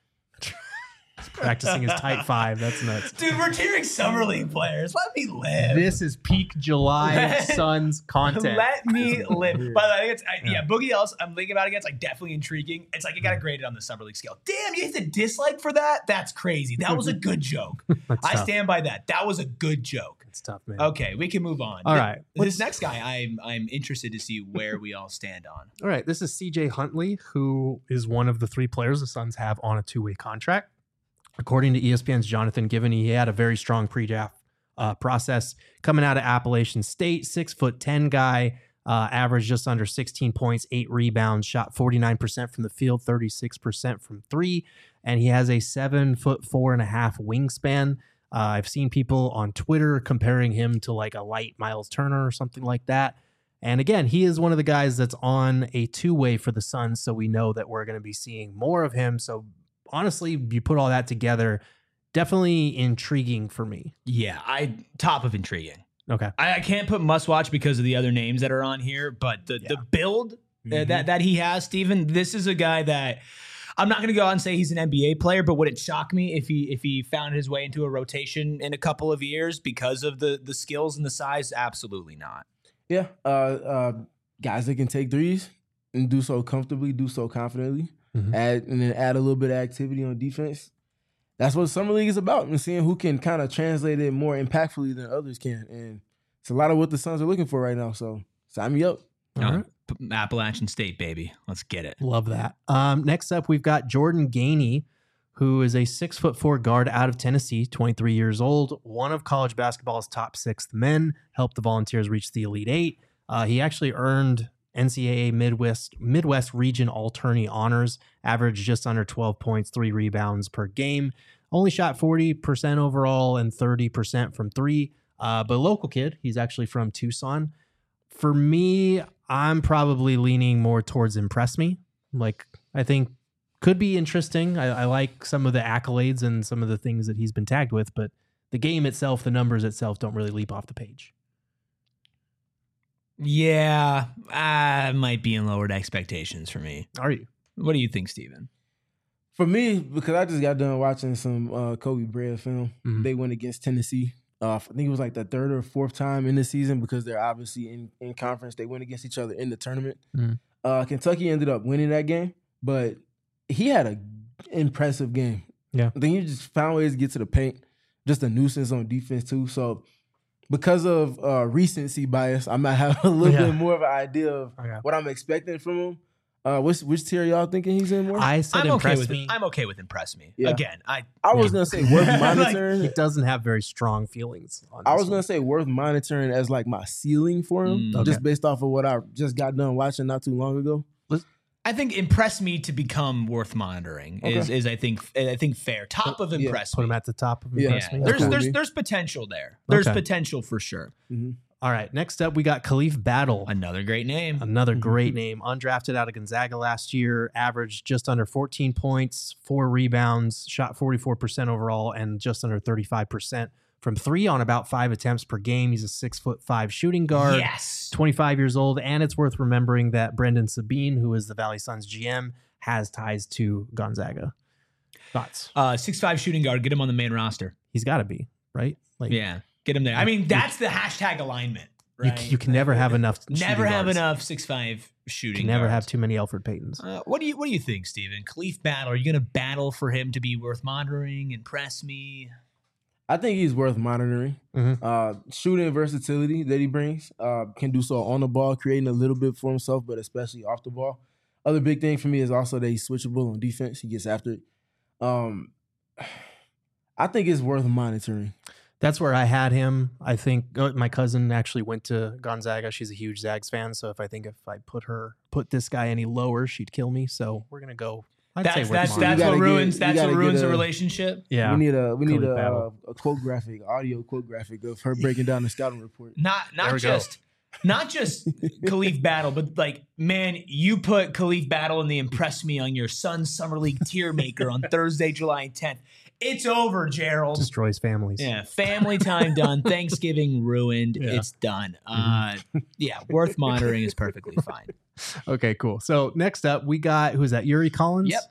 he's practicing his tight five. That's nuts. Dude, we're tearing summer league players. Let me live. This is peak July Let- Suns content. Let me live. weird. By the way, I think it's, I, yeah. Yeah. Boogie Ellis, I'm thinking about it again. It's like definitely intriguing. It's like you got to grade it on the summer league scale. Damn, you hit the dislike for that? That's crazy. That was a good joke. That's I tough. stand by that. That was a good joke. It's tough, man. Okay, we can move on. All Th- right. This Let's- next guy, I'm I'm interested to see where we all stand on. All right. This is C J Huntley, who is one of the three players the Suns have on a two-way contract. According to E S P N's Jonathan Givney, he had a very strong pre-draft uh, process coming out of Appalachian State. Six foot ten guy, uh, averaged just under sixteen points, eight rebounds, shot forty-nine percent from the field, thirty-six percent from three, and he has a seven foot four and a half wingspan. Uh, I've seen people on Twitter comparing him to like a light Miles Turner or something like that. And again, he is one of the guys that's on a two-way for the Suns, so we know that we're going to be seeing more of him. So honestly, you put all that together, definitely intriguing for me. Yeah, I top of intriguing. Okay. I, I can't put must watch because of the other names that are on here, but the the build uh, Mhm. that that he has, Steven, this is a guy that I'm not going to go out and say he's an N B A player, but would it shock me if he if he found his way into a rotation in a couple of years because of the the skills and the size? Absolutely not. Yeah. Uh, uh, guys that can take threes and do so comfortably, do so confidently, Mhm. add and then add a little bit of activity on defense. That's what Summer League is about, and seeing who can kind of translate it more impactfully than others can. And it's a lot of what the Suns are looking for right now. So sign me up. All right. P- Appalachian State, baby. Let's get it. Love that. Um, next up, we've got Jordan Gainey, who is a six foot four guard out of Tennessee, twenty-three years old, one of college basketball's top six men, helped the Volunteers reach the Elite Eight. Uh, he actually earned N C double A Midwest Midwest Region All-Tourney honors, averaged just under twelve points, three rebounds per game. Only shot forty percent overall and thirty percent from three. Uh, but local kid, he's actually from Tucson. For me, I'm probably leaning more towards impress me. Like, I think could be interesting. I, I like some of the accolades and some of the things that he's been tagged with, but the game itself, the numbers itself don't really leap off the page. Yeah, I might be in lowered expectations for me. Are you? What do you think, Steven? For me, because I just got done watching some uh, Kobe Bryant film. Mhm. They went against Tennessee. Uh, I think it was like the third or fourth time in the season because they're obviously in, in conference. They went against each other in the tournament. Mhm. Uh, Kentucky ended up winning that game, but he had an impressive game. Yeah. I think he just found ways to get to the paint. Just a nuisance on defense too. So because of uh, recency bias, I might have a little Yeah. bit more of an idea of Okay. what I'm expecting from him. Uh, which which tier y'all thinking he's in more? I, I said I'm okay impress with me. it. I'm okay with impress me. Yeah. Again, I was Yeah. gonna say worth Like, monitoring. He doesn't have very strong feelings on I this was one. gonna say worth monitoring as like my ceiling for him, Mm. Okay. just based off of what I just got done watching not too long ago. I think impress me to become worth monitoring is Okay. is I think I think fair. Top of Yeah, impress Put me. him at the top of Yeah. impress Yeah. me. There's cool. there's Okay. there's potential there. There's Okay. potential for sure. Mm-hmm. All right, next up, we got Khalif Battle. Another great name. Another great name. Undrafted out of Gonzaga last year, averaged just under fourteen points, four rebounds, shot forty-four percent overall, and just under thirty-five percent from three on about five attempts per game. He's a six foot five shooting guard. Yes. twenty-five years old. And it's worth remembering that Brendan Sabine, who is the Valley Suns G M, has ties to Gonzaga. Thoughts? Uh, six five shooting guard. Get him on the main roster. He's got to be, right? Like, Yeah. Get him there. I mean, that's the hashtag alignment, You, right? you can never have enough. Never shooting have guards. enough six five You shooting can never guards. have too many Alfred Paytons. Uh, what do you What do you think, Steven? Khalif Battle. Are you going to battle for him to be worth monitoring? Impress me. I think he's worth monitoring. Mhm. Uh, shooting versatility that he brings, uh, can do so on the ball, creating a little bit for himself, but especially off the ball. Other big thing for me is also that he's switchable on defense. He gets after it. Um, I think it's worth monitoring. That's where I had him. I think uh, my cousin actually went to Gonzaga. She's a huge Zags fan, so if I think if I put her put this guy any lower, she'd kill me. So we're gonna go. I'd That's say worth that's monitoring. that's You what gotta ruins get- you that's what gotta ruins get a a- relationship. yeah. We need a we need Khalif a, Battle. uh, a quote graphic, audio quote graphic of her breaking down the scouting report. Not There not we go. just not just Khalif Battle, but like, man, you put Khalif Battle in the Impress Me on your Suns Summer League tier maker on Thursday, July tenth. It's over, Gerald. Destroys families. Yeah, family time done. Thanksgiving ruined. Yeah. It's done. Uh, yeah, worth monitoring is perfectly fine. Okay, cool. So next up, we got who's that? Yuri Collins. Yep.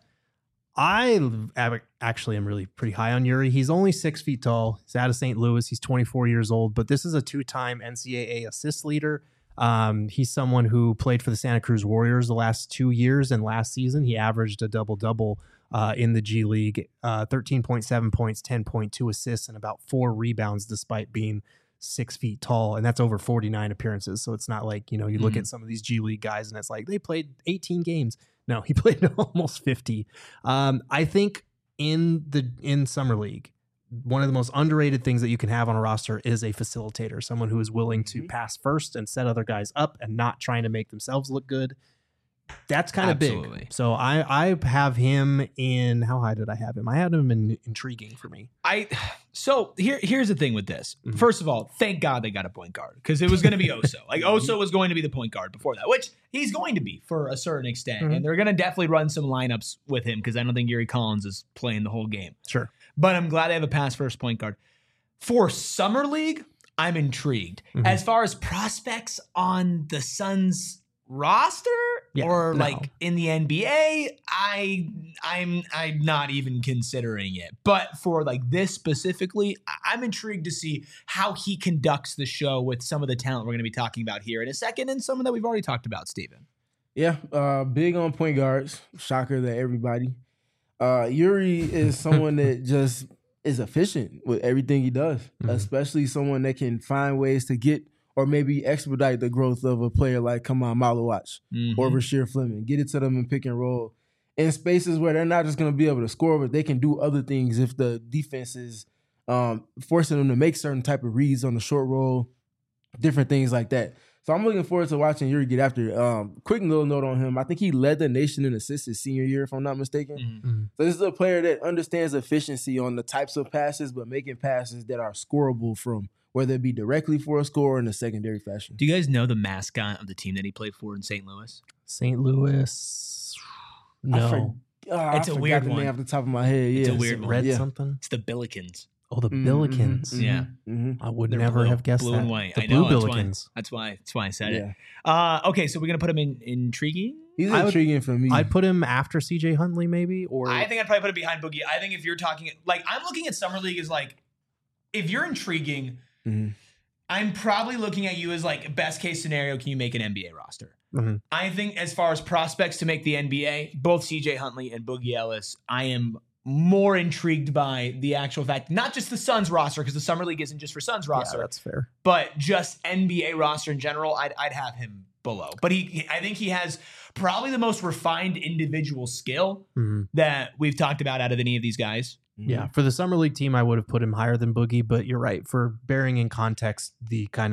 I ab- actually am really pretty high on Yuri. He's only six feet tall. He's out of Saint Louis. He's twenty-four years old, but this is a two-time N C double A assist leader. Um, he's someone who played for the Santa Cruz Warriors the last two years, and last season he averaged a double-double uh, in the G League, uh, thirteen point seven points, ten point two assists, and about four rebounds despite being six feet tall. And that's over forty-nine appearances. So it's not like, you know, you look Mhm. at some of these G League guys and it's like they played eighteen games. No, he played almost fifty. Um, I think in the in Summer League, one of the most underrated things that you can have on a roster is a facilitator, someone who is willing to Mhm. pass first and set other guys up and not trying to make themselves look good. That's kind of Absolutely. big. So I I have him in, how high did I have him? I had him in intriguing for me. I so here here's the thing with this. Mhm. First of all, thank God they got a point guard because it was going to be Oso. Like Oso was going to be the point guard before that, which he's going to be for a certain extent, Mhm. and they're going to definitely run some lineups with him because I don't think Yuri Collins is playing the whole game. Sure. But I'm glad they have a pass first point guard for Summer League. I'm intrigued Mhm. as far as prospects on the Suns roster Yeah, or no. like in the N B A. I I'm I'm not even considering it. But for like this specifically, I- I'm intrigued to see how he conducts the show with some of the talent we're going to be talking about here in a second, and some that we've already talked about, Steven. Yeah, uh, big on point guards. Shocker to everybody. Uh, Yuri is someone that just is efficient with everything he does, Mhm. especially someone that can find ways to get or maybe expedite the growth of a player like Kamal Malawach Mhm. or Rasheer Fleming. Get it to them in pick and roll in spaces where they're not just going to be able to score, but they can do other things if the defense is um, forcing them to make certain type of reads on the short roll, different things like that. So I'm looking forward to watching Yuri get after it. Um, quick little note on him. I think he led the nation in assists his senior year, if I'm not mistaken. Mhm. So this is a player that understands efficiency on the types of passes, but making passes that are scorable from whether it be directly for a score or in a secondary fashion. Do you guys know the mascot of the team that he played for in Saint Louis? Saint Louis. I No. for- ah, It's I a forgot weird the one. name off the top of my head. Yeah, It's a weird one. Red Yeah. something? It's the Billikens. Oh, the Mhm, Billikens. mhm, Yeah. mhm. I would They're never blue- have guessed blue that. and white. The I Blue know, that's why. Billikens. That's why. That's why I said Yeah. it. Uh, okay, so we're gonna put him in intriguing. He's I would- intriguing for me. I'd put him after C J Huntley, maybe, or I think I'd probably put it behind Boogie. I think if you're talking like I'm looking at Summer League as like if you're intriguing, Mhm. I'm probably looking at you as like best case scenario, can you make an N B A roster? Mhm. I think as far as prospects to make the N B A, both C J Huntley and Boogie Ellis, I am more intrigued by the actual fact, not just the Suns roster, because the Summer League isn't just for Suns yeah, roster, that's fair. but just N B A roster in general, I'd, I'd have him below. But he, he- I think he has probably the most refined individual skill Mhm. that we've talked about out of any of these guys. Yeah, for the Summer League team, I would have put him higher than Boogie, but you're right. For bearing in context the kind of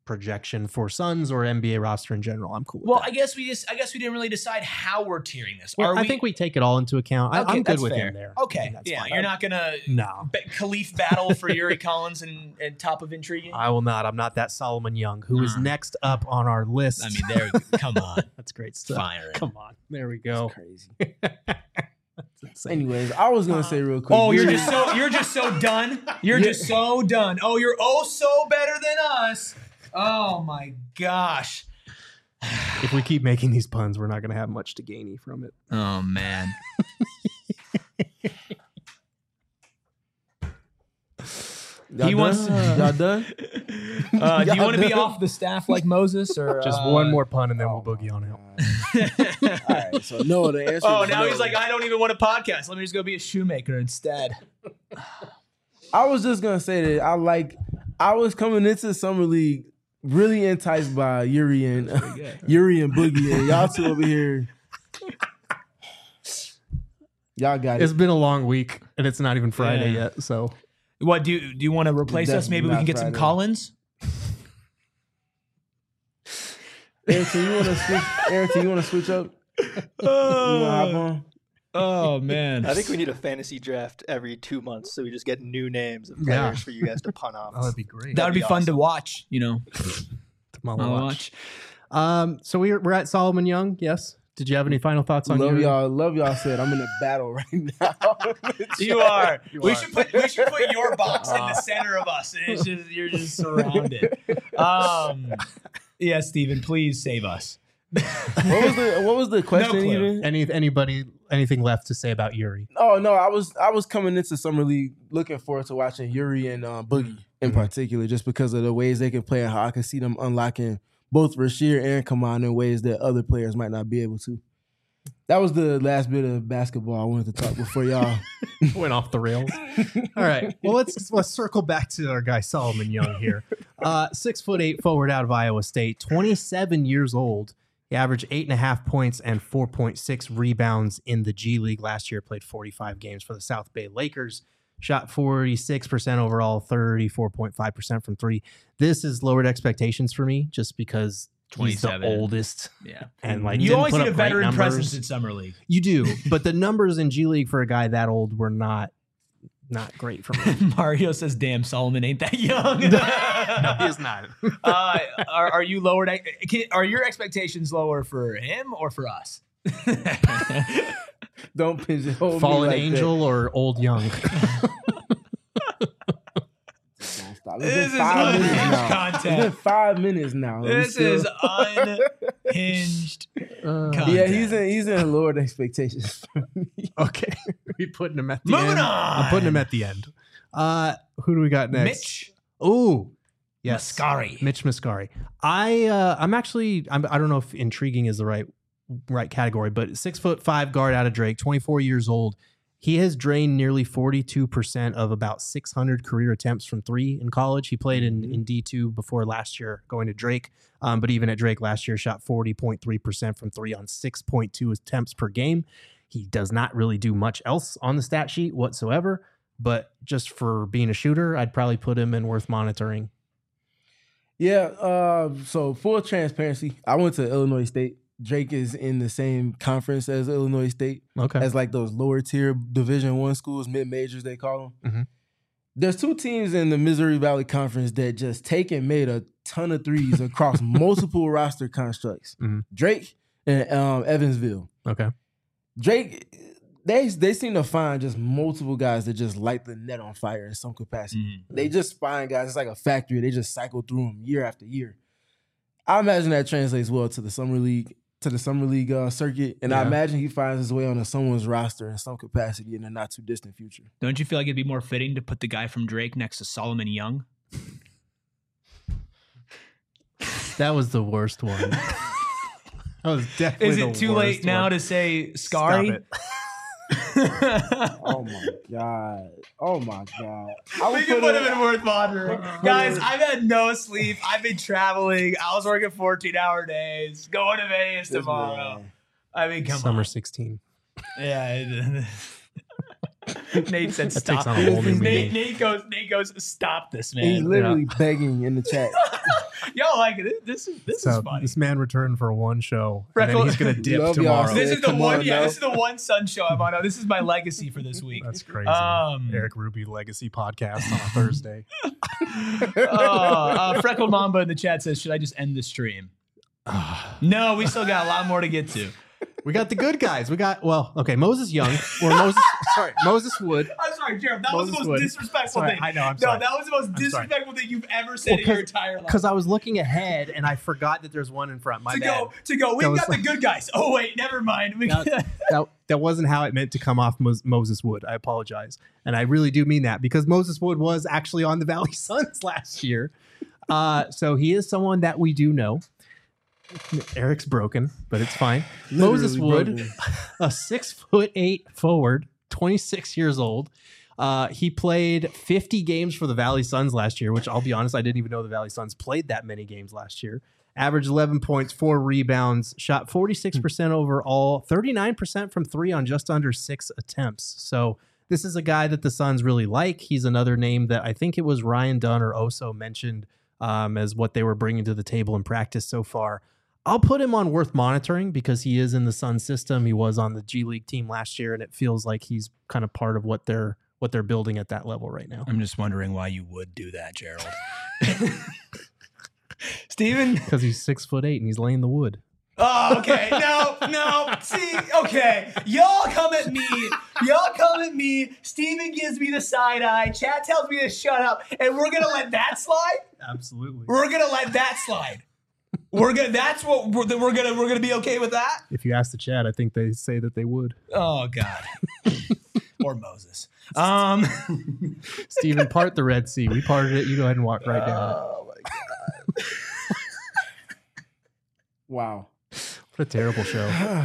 projection for Suns or N B A roster in general. I'm cool with Well, that. I guess we just I guess we didn't really decide how we're tiering this. Well, Are I we, think we take it all into account. I, Okay, I'm good that's with fair. him there. Okay, That's yeah, fine. you're not gonna No. ba- Khalif battle for Yuri Collins and, and top of intriguing. I will not. I'm not that Solomon Young, who is Mm. next up on our list. I mean, there. Come on, that's great stuff. fire. Come on. There we go. Crazy. That's insane. Anyways, I was gonna say real quick. Oh, you're Yuri- just so you're just so done. You're just so done. Oh, you're oh so better than us. Oh my gosh. If we keep making these puns, we're not going to have much to gain from it. Oh man. Y'all He done? wants- Y'all done? Uh, do you Y'all want to be done? off the staff like Moses, or Just uh, one more pun and then we'll boogie on out. All right, so no, the answer. Oh, is now no. he's like, I don't even want a podcast. Let me just go be a shoemaker instead. I was just gonna say that I like. I was coming into summer league really enticed by Yuri and Yuri and Boogie, and y'all two over here. Y'all got It's it. been a long week and it's not even Friday Yeah. yet. So What do you, do you want to replace us? Definitely Maybe we not can get some Friday. Collins. Ayrton, you want to switch? Ayrton, you want to switch up? You want to hop on? Oh man. I think we need a fantasy draft every two months, so we just get new names of Yeah. players for you guys to pun off. oh, that'd be great. That would be, be fun to awesome. watch. You know, Tomorrow I'll watch. watch. Um, so we're we're at Solomon Young. Yes. Did you have any final thoughts on Love Yuri? y'all. Love y'all. Said I'm in a battle right now. You are. You we are. should put we should put your box in the center of us. And it's just you're just surrounded. Um, yeah, Steven, please save us. What was the What was the question clue. even? Any anybody anything left to say about Yuri? Oh no, I was I was coming into summer league looking forward to watching Yuri and uh, Boogie in particular, just because of the ways they can play and how I can see them unlocking both Rasheer and Kaman in ways that other players might not be able to. That was the last bit of basketball I wanted to talk before y'all. Went off the rails. All right. Well, let's let's circle back to our guy Solomon Young here. Uh, six foot eight forward out of Iowa State, twenty-seven years old. He averaged eight and a half points and four point six rebounds in the G League last year. Played forty-five games for the South Bay Lakers. Shot forty-six percent overall, thirty-four point five percent from three. This has lowered expectations for me just because he's the twenty-seven. oldest. Yeah. And like You didn't always put need a up great veteran numbers. presence in summer league. You do, but the numbers in G League for a guy that old were not not great for me. Mario says, "Damn, Solomon ain't that young." No, he is not. uh, are, are you lowered? Can, are your expectations lower for him or for us? Don't pigeonhole me Fallen like angel or old young? That. Don't stop. It's This been is five minutes unhinged now. content. It's been five minutes now. We This still- is unhinged. Uh, content. Yeah, he's in he's in lowered expectations for me. okay, we putting him at the Moving end. on. I'm putting him at the end. Uh, who do we got next? Mitch Ooh, yes, Mascari. Mitch Mascari. I uh, I'm actually I'm, I don't know if intriguing is the right right category, but six foot five guard out of Drake, twenty-four years old. He has drained nearly forty-two percent of about six hundred career attempts from three in college. He played in, in D two before last year going to Drake. Um, but even at Drake last year, shot forty point three percent from three on six point two attempts per game. He does not really do much else on the stat sheet whatsoever. But just for being a shooter, I'd probably put him in worth monitoring. Yeah, uh, so full transparency, I went to Illinois State. Drake is in the same conference as Illinois State, Okay. as like those lower tier Division One schools, mid majors they call them. Mhm. There's two teams in the Missouri Valley Conference that just take and made a ton of threes across multiple roster constructs. Mhm. Drake and um, Evansville. Okay. Drake, they they seem to find just multiple guys that just light the net on fire in some capacity. Mm-hmm. They just find guys. It's like a factory. They just cycle through them year after year. I imagine that translates well to the summer league, to the summer league uh, circuit, and I Yeah. imagine he finds his way onto someone's roster in some capacity in the not too distant future. Don't you feel like it'd be more fitting to put the guy from Drake next to Solomon Young? That was the worst one. That was definitely Is the it too worst late now one. to say Stop Scary? it. Oh my god! Oh my god! I We would can put him it- in worth monitoring. Guys, I've had no sleep. I've been traveling. I was working fourteen hour days. Going to Vegas This tomorrow. man. I mean, come Summer on. sixteen. Yeah. Nate said That stop. takes on a whole new Nate, meaning. Nate goes. Nate goes. Stop this, man. He's literally begging in the chat. Yo, like this, this is this So is funny. this man returned for one show, and Freckle- then he's gonna dip Love y'all, tomorrow. sis. This is the Come one. on, yeah, no. this is the one Sun show I'm on. This is my legacy for this week. That's crazy. Um, Eric Ruby Legacy Podcast on a Thursday. uh, uh, Freckled Mamba in the chat says, "Should I just end the stream?" No, we still got a lot more to get to. We got the good guys. We got well, okay, Moses Young or Moses. sorry, Moses Wood. I'm sorry, Jared. That was Moses the most Wood. disrespectful Sorry, thing. I know. I'm no, sorry. that was the most I'm sorry. disrespectful thing you've ever said Well, in your 'cause- entire life. Because I was looking ahead and I forgot that there's one in front. My to bad. go, to go. We've That was got the good guys. Oh wait, never mind. We that, that, that wasn't how it meant to come off Mos- Moses Wood. I apologize. And I really do mean that because Moses Wood was actually on the Valley Suns last year. Uh, so he is someone that we do know. Eric's broken, but it's fine. Moses Literally Wood, broken. a six foot eight forward, twenty-six years old. Uh, he played fifty games for the Valley Suns last year, which I'll be honest, I didn't even know the Valley Suns played that many games last year. Averaged eleven points, four rebounds, shot forty-six percent overall, thirty-nine percent from three on just under six attempts. So this is a guy that the Suns really like. He's another name that I think it was Ryan Dunn or Oso mentioned um, as what they were bringing to the table in practice so far. I'll put him on worth monitoring because he is in the Sun system. He was on the G League team last year, and it feels like he's kind of part of what they're what they're building at that level right now. I'm just wondering why you would do that, Gerald. Steven? Because he's six foot eight and he's laying the wood. Oh, okay. No, no. See, okay. Y'all come at me. Y'all come at me. Steven gives me the side eye. Chad tells me to shut up. And we're going to let that slide? Absolutely. We're going to let that slide. We're gonna. That's what we're, we're gonna. We're gonna be okay with that. If you ask the chat, I think they say that they would. Oh God. Or Moses. Um. Steven, part the Red Sea. We parted it. You go ahead and walk right down it. Oh my God. Wow. What a terrible show.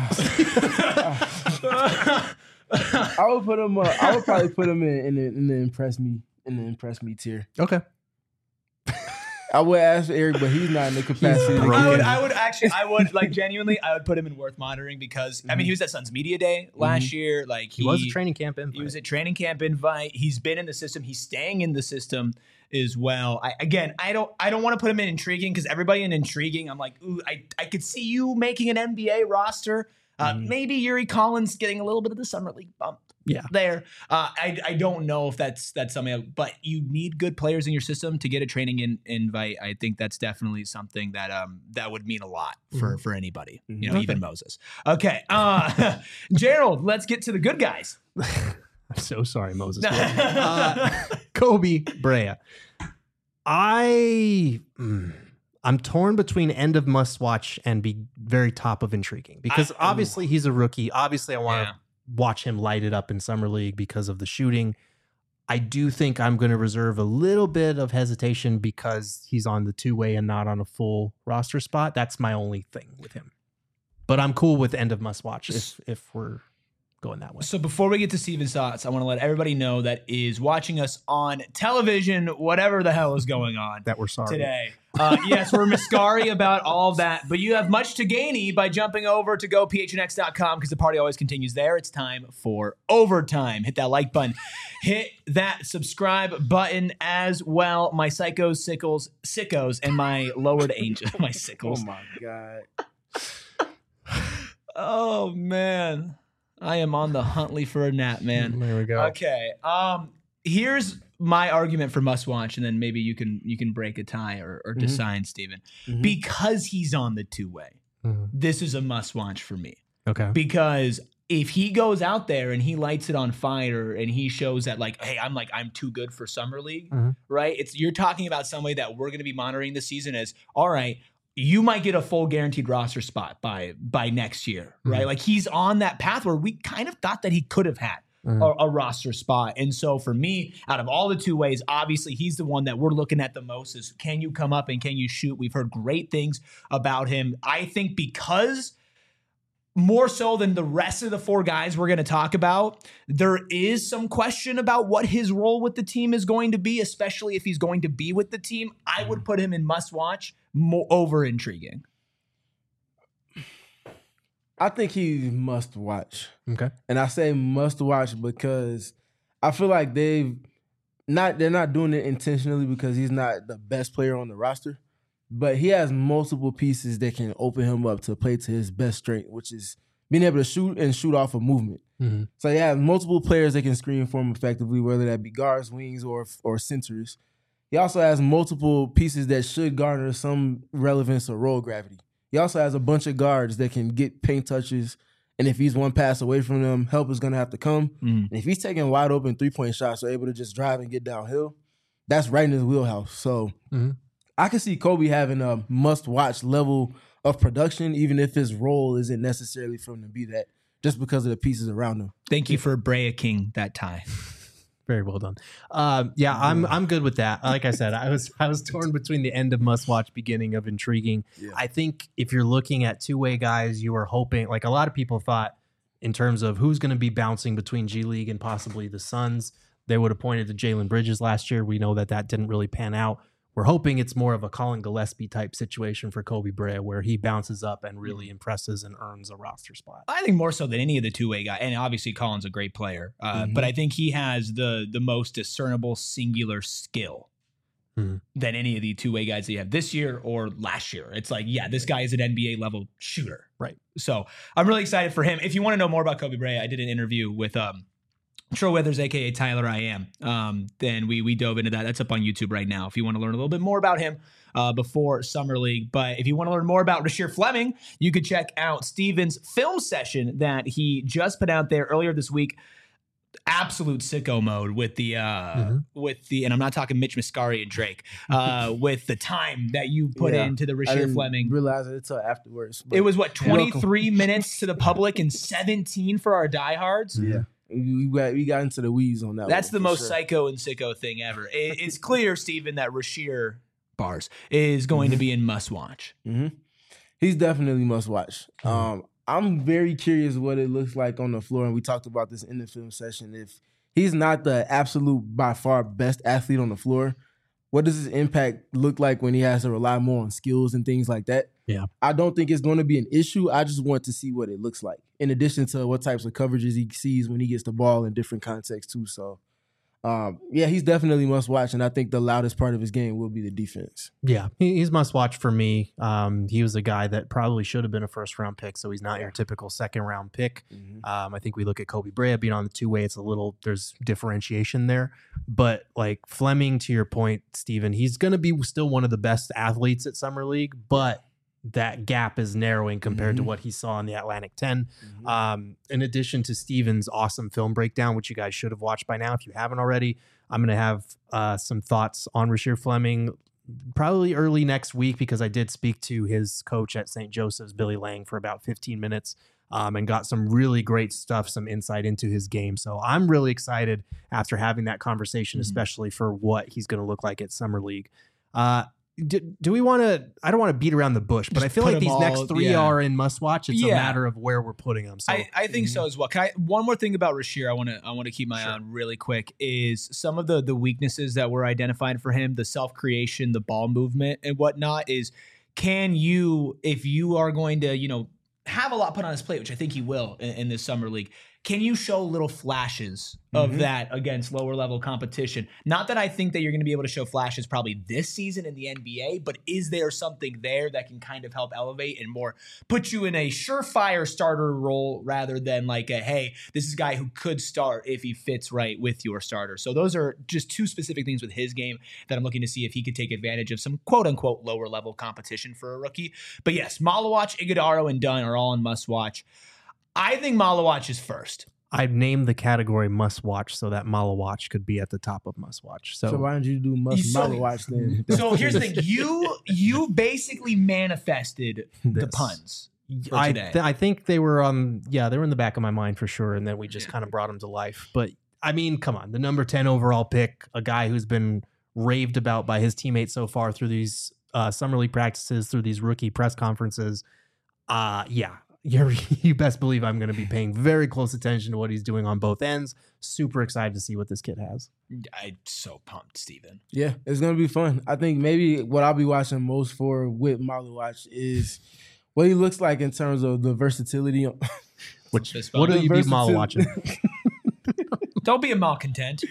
I would put him. Uh, I would probably put him in in the, in the impress me in the impress me tier. Okay. I would ask Eric, but he's not in the capacity. to broken. I would, give- I would actually, I would like genuinely, I would put him in worth monitoring because I mean, he was at Suns Media Day last year. Like He, was a training camp invite. He was a training camp invite. He's been in the system. He's staying in the system as well. I, again, I don't, I don't want to put him in intriguing because everybody in intriguing, I'm like, ooh, I, I could see you making an N B A roster. Uh, Mhm. Maybe Yuri Collins getting a little bit of the summer league bump. Yeah. There. Uh, I, I don't know if that's that's something, but you need good players in your system to get a training in, invite. I think that's definitely something that um that would mean a lot for for anybody. You know, Okay. even Moses. Okay, uh, Gerald, let's get to the good guys. I'm so sorry, Moses. uh, Kobe Brea. I mm, I'm torn between end of must watch and be very top of intriguing because I- obviously he's a rookie. Obviously, I want to Yeah. watch him light it up in summer league because of the shooting. I do think I'm going to reserve a little bit of hesitation because he's on the two way and not on a full roster spot. That's my only thing with him. But I'm cool with end of must watch if if we're going that way. So before we get to Steven's thoughts, I want to let everybody know that is watching us on television, whatever the hell is going on That we're sorry. today. Uh, yes, we're mascari about all of that, but you have much to gainy by jumping over to go p h n x dot com because the party always continues there. It's time for overtime. Hit that like button. Hit that subscribe button as well. My psychos, sickles, sickos, and my lowered angel. My Oh sickles. my god. Oh, man. I am on the Huntley for a nap, man. There we go. Okay. Um, here's my argument for must watch, and then maybe you can you can break a tie or, or decide, Steven. Mhm. Because he's on the two way, Mhm. this is a must watch for me. Okay. Because if he goes out there and he lights it on fire and he shows that like, hey, I'm like I'm too good for summer league, Mhm. right? It's you're talking about somebody that we're going to be monitoring this season as all right. You might get a full guaranteed roster spot by by next year, right? Mhm. Like he's on that path where we kind of thought that he could have had Mhm. a, a roster spot. And so for me, out of all the two ways, obviously he's the one that we're looking at the most is can you come up and can you shoot? We've heard great things about him. I think because more so than the rest of the four guys we're going to talk about, there is some question about what his role with the team is going to be, especially if he's going to be with the team. I would put him in must watch, more over intriguing. I think he must watch. Okay. And I say must watch because I feel like they've not they're not doing it intentionally because he's not the best player on the roster, but he has multiple pieces that can open him up to play to his best strength, which is being able to shoot and shoot off a movement. Mm-hmm. So he has multiple players that can screen for him effectively, whether that be guards, wings, or or centers. He also has multiple pieces that should garner some relevance or roll gravity. He also has a bunch of guards that can get paint touches, and if he's one pass away from them, help is going to have to come. Mm. And if he's taking wide open three-point shots or able to just drive and get downhill, that's right in his wheelhouse. So Mm-hmm. I can see Kobe having a must-watch level of production, even if his role isn't necessarily for him to be that, just because of the pieces around him. Thank you for Brea King that tie. Very well done. Um, yeah, I'm I'm good with that. Like I said, I was I was torn between the end of must watch, beginning of intriguing. Yeah. I think if you're looking at two way guys, you were hoping, like a lot of people thought, in terms of who's going to be bouncing between G League and possibly the Suns, they would have pointed to Jalen Bridges last year. We know that that didn't really pan out. We're hoping it's more of a Colin Gillespie type situation for Kobe Brea, where he bounces up and really impresses and earns a roster spot. I think more so than any of the two-way guys, and obviously Colin's a great player, uh, Mhm. but I think he has the the most discernible singular skill Mhm. than any of the two-way guys that you have this year or last year. It's like, yeah, this guy is an N B A level shooter. Right. So I'm really excited for him. If you want to know more about Kobe Brea, I did an interview with um, Troy Weathers, aka Tyler I Am. Um, then we we dove into that. That's up on YouTube right now. If you want to learn a little bit more about him uh, before Summer League, but if you want to learn more about Rasheer Fleming, you could check out Steven's film session that he just put out there earlier this week. Absolute sicko mode with the uh, Mm-hmm. with the, and I'm not talking Mitch Muscari and Drake, uh, with the time that you put Yeah. into the I Rasheer didn't Fleming. realize it until afterwards. but It was what, you're welcome. twenty-three minutes to the public and seventeen for our diehards. Yeah. We got, we got into the weeds on that. That's one, the for most sure. psycho and sicko thing ever. It, it's clear, Steven, that Rasheer bars is going to be in must watch. hmm He's definitely must watch. Um, I'm very curious what it looks like on the floor, and we talked about this in the film session. If he's not the absolute, by far, best athlete on the floor, what does his impact look like when he has to rely more on skills and things like that? Yeah. I don't think it's going to be an issue. I just want to see what it looks like, in addition to what types of coverages he sees when he gets the ball in different contexts too. So, um, yeah, he's definitely must watch, and I think the loudest part of his game will be the defense. Yeah, he, he's must watch for me. Um, he was a guy that probably should have been a first round pick, so he's not your typical second round pick. Mhm. Um, I think we look at Kobe Brea being on the two way. It's a little, there's differentiation there. But like Fleming, to your point, Steven, he's going to be still one of the best athletes at Summer League, but that gap is narrowing compared to Mhm. what he saw in the Atlantic ten. Mhm. Um, in addition to Steven's awesome film breakdown, which you guys should have watched by now if you haven't already, I'm going to have uh, some thoughts on Rasheer Fleming probably early next week, because I did speak to his coach at Saint Joseph's, Billy Lang, for about fifteen minutes um, and got some really great stuff, some insight into his game. So I'm really excited after having that conversation, Mhm. especially for what he's going to look like at Summer League. Uh, do, do we want to, I don't want to beat around the bush, but Just I feel put like 'em these next all- three yeah. are in must watch. It's a Yeah. matter of where we're putting them. So I, I think so as well. Can I, one more thing about Rasheer I want to I want to keep my Sure. eye on really quick is some of the the weaknesses that were identified for him, the self creation, the ball movement, and whatnot. Is can you, if you are going to, you know, have a lot put on his plate, which I think he will in, in this summer league, can you show little flashes of Mhm. that against lower level competition? Not that I think that you're going to be able to show flashes probably this season in the N B A, but is there something there that can kind of help elevate and more put you in a surefire starter role rather than like a, hey, this is a guy who could start if he fits right with your starter? So those are just two specific things with his game that I'm looking to see if he could take advantage of some quote unquote lower level competition for a rookie. But yes, Malawach, Iguodaro, and Dunn are all in must watch. I think Malawach is first. I've named the category must watch so that Malawach could be at the top of must watch. So, So why don't you do must So- so, watch then? So here's the thing: you you basically manifested the This. puns. for I, today. th- I think they were um yeah they were in the back of my mind for sure, and then we just Yeah. kind of brought them to life. But I mean, come on, the number ten overall pick, a guy who's been raved about by his teammates so far through these uh, summer league practices, through these rookie press conferences. Uh yeah, you're you best believe I'm going to be paying very close attention to what he's doing on both ends. Super excited to see what this kid has. I'm so pumped, Steven. Yeah, it's gonna be fun. I think maybe what I'll be watching most for with Malawach is what he looks like in terms of the versatility. Which Fist what bump. do you be versatility- Mala watching? Don't be a malcontent.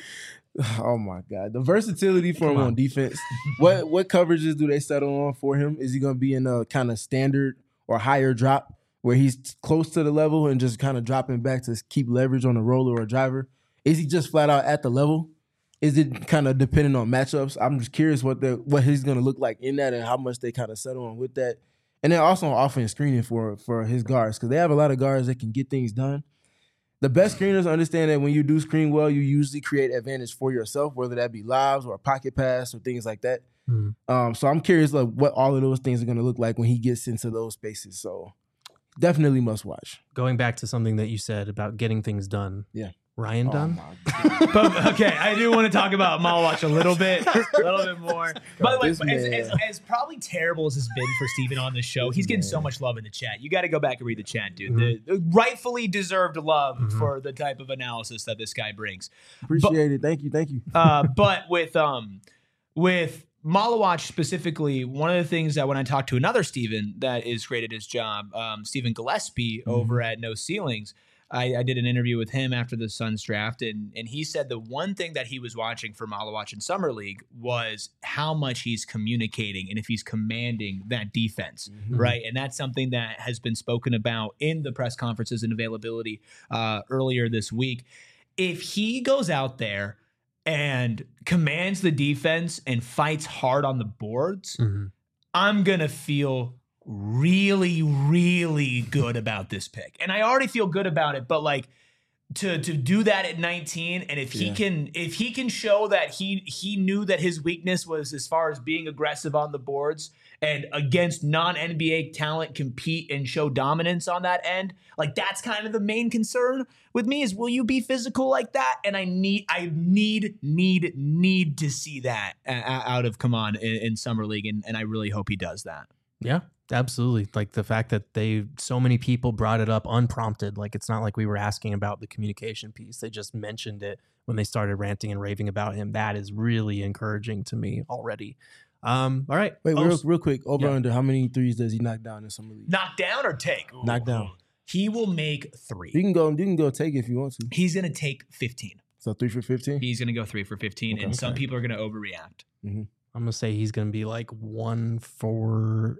Oh my God, the versatility for Come him on. on defense. what what coverages do they settle on for him? Is he going to be in a kind of standard or higher drop where he's close to the level and just kind of dropping back to keep leverage on a roller or a driver? Is he just flat out at the level? Is it kind of dependent on matchups? I'm just curious what the what he's going to look like in that and how much they kind of settle on with that. And then also on offense screening for for his guards, because they have a lot of guards that can get things done. The best screeners understand that when you do screen well, you usually create advantage for yourself, whether that be lives or a pocket pass or things like that. Mm. Um, so I'm curious like what all of those things are going to look like when he gets into those spaces. So definitely must watch. Going back to something that you said about getting things done. Yeah. Ryan Oh Dunn? my God. But, okay, I do want to talk about Malawatch a little bit, a little bit more. By the way, This as, man. as, as probably terrible as it's been for Steven on the show, he's getting so much love in the chat. You got to go back and read the chat, dude. The, the rightfully deserved love Mhm. for the type of analysis that this guy brings. Appreciate it. Thank you. Thank you. Uh, but with um, with Malawatch specifically, one of the things that when I talked to another Steven that is great at his job, um, Stephen Gillespie over at No Ceilings, I, I did an interview with him after the Suns draft, and and he said the one thing that he was watching for Malawatch in Summer League was how much he's communicating and if he's commanding that defense, Mm-hmm. right? And that's something that has been spoken about in the press conferences and availability uh, earlier this week. If he goes out there and commands the defense and fights hard on the boards, Mhm. I'm going to feel really, really good about this pick. And I already feel good about it, but like to to do that at nineteen, and if he Yeah. can if he can show that he he knew that his weakness was as far as being aggressive on the boards and against non-N B A talent compete and show dominance on that end, like that's kind of the main concern with me is will you be physical like that? And I need I need need need to see that uh, out of Kaman in, in Summer League, and, and I really hope he does that. Yeah, absolutely. Like the fact that they, so many people brought it up unprompted. Like it's not like we were asking about the communication piece. They just mentioned it when they started ranting and raving about him. That is really encouraging to me already. Um, all right. Wait, Oh, real, real quick. Over yeah. under how many threes does he knock down in Summer League? Knock down or take? Knock down. He will make You three. can go. You can go take it if you want to. He's going to take fifteen. So three for fifteen. He's going to go three for fifteen, Okay. and some Okay. people are going to overreact. I'm going to say he's going to be like one for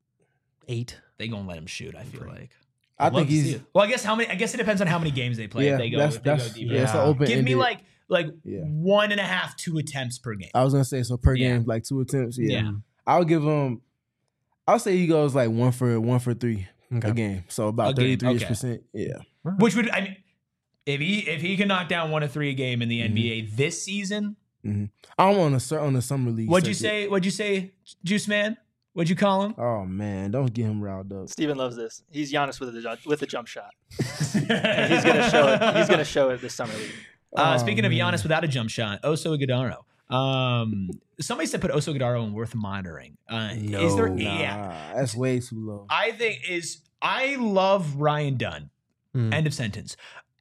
eight. They going to let him shoot, I feel like. I I'd love think to see he's. it. Well, I guess how many? I guess it depends on how many games they play. Yeah, if they go, that's if they that's go deeper. yeah. It's an Yeah. open. Give me like like Yeah. one and a half, two attempts per game. I was gonna say so per Yeah. game, like two attempts. Yeah. Yeah. I'll give him. I'll say he goes like one for one for three Okay. a game. So about A game, thirty three okay. percent. Yeah. Which would I mean, if he if he can knock down one or three a game in the N B A this season, I'm on a on the summer league. what'd you circuit. say? What'd you say, Juice Man? What'd you call him? Oh man, don't get him riled up. Steven loves this. He's Giannis with a ju- with a jump shot. And he's gonna show it. He's gonna show it this summer league. Uh, Oh, speaking of man. Giannis without a jump shot, Oso Ighodaro. Um, somebody said put Oso Ighodaro in worth monitoring. Uh, is there? No. Nah, Yeah, that's way too low. I think is. I love Ryan Dunn. Hmm. End of sentence.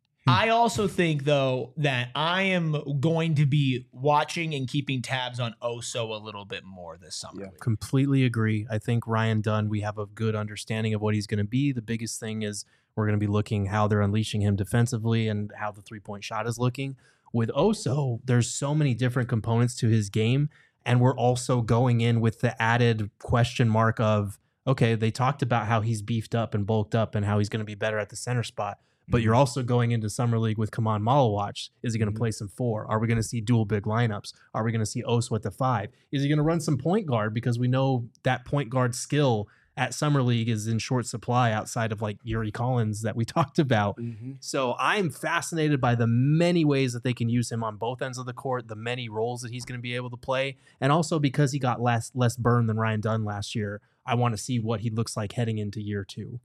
I also think though that I am going to be watching and keeping tabs on Oso a little bit more this summer. Yeah. Completely agree. I think Ryan Dunn, we have a good understanding of what he's going to be. The biggest thing is we're going to be looking how they're unleashing him defensively and how the three-point shot is looking. With Oso, there's so many different components to his game, and we're also going in with the added question mark of, okay, they talked about how he's beefed up and bulked up and how he's going to be better at the center spot. But you're also going into Summer League with Kaman Malawatch. Is he going to Mhm. play some four? Are we going to see dual big lineups? Are we going to see Oso at the five? Is he going to run some point guard? Because we know that point guard skill at Summer League is in short supply outside of like Yuri Collins that we talked about. Mhm. So I'm fascinated by the many ways that they can use him on both ends of the court, the many roles that he's going to be able to play. And also because he got less, less burn than Ryan Dunn last year, I want to see what he looks like heading into year two.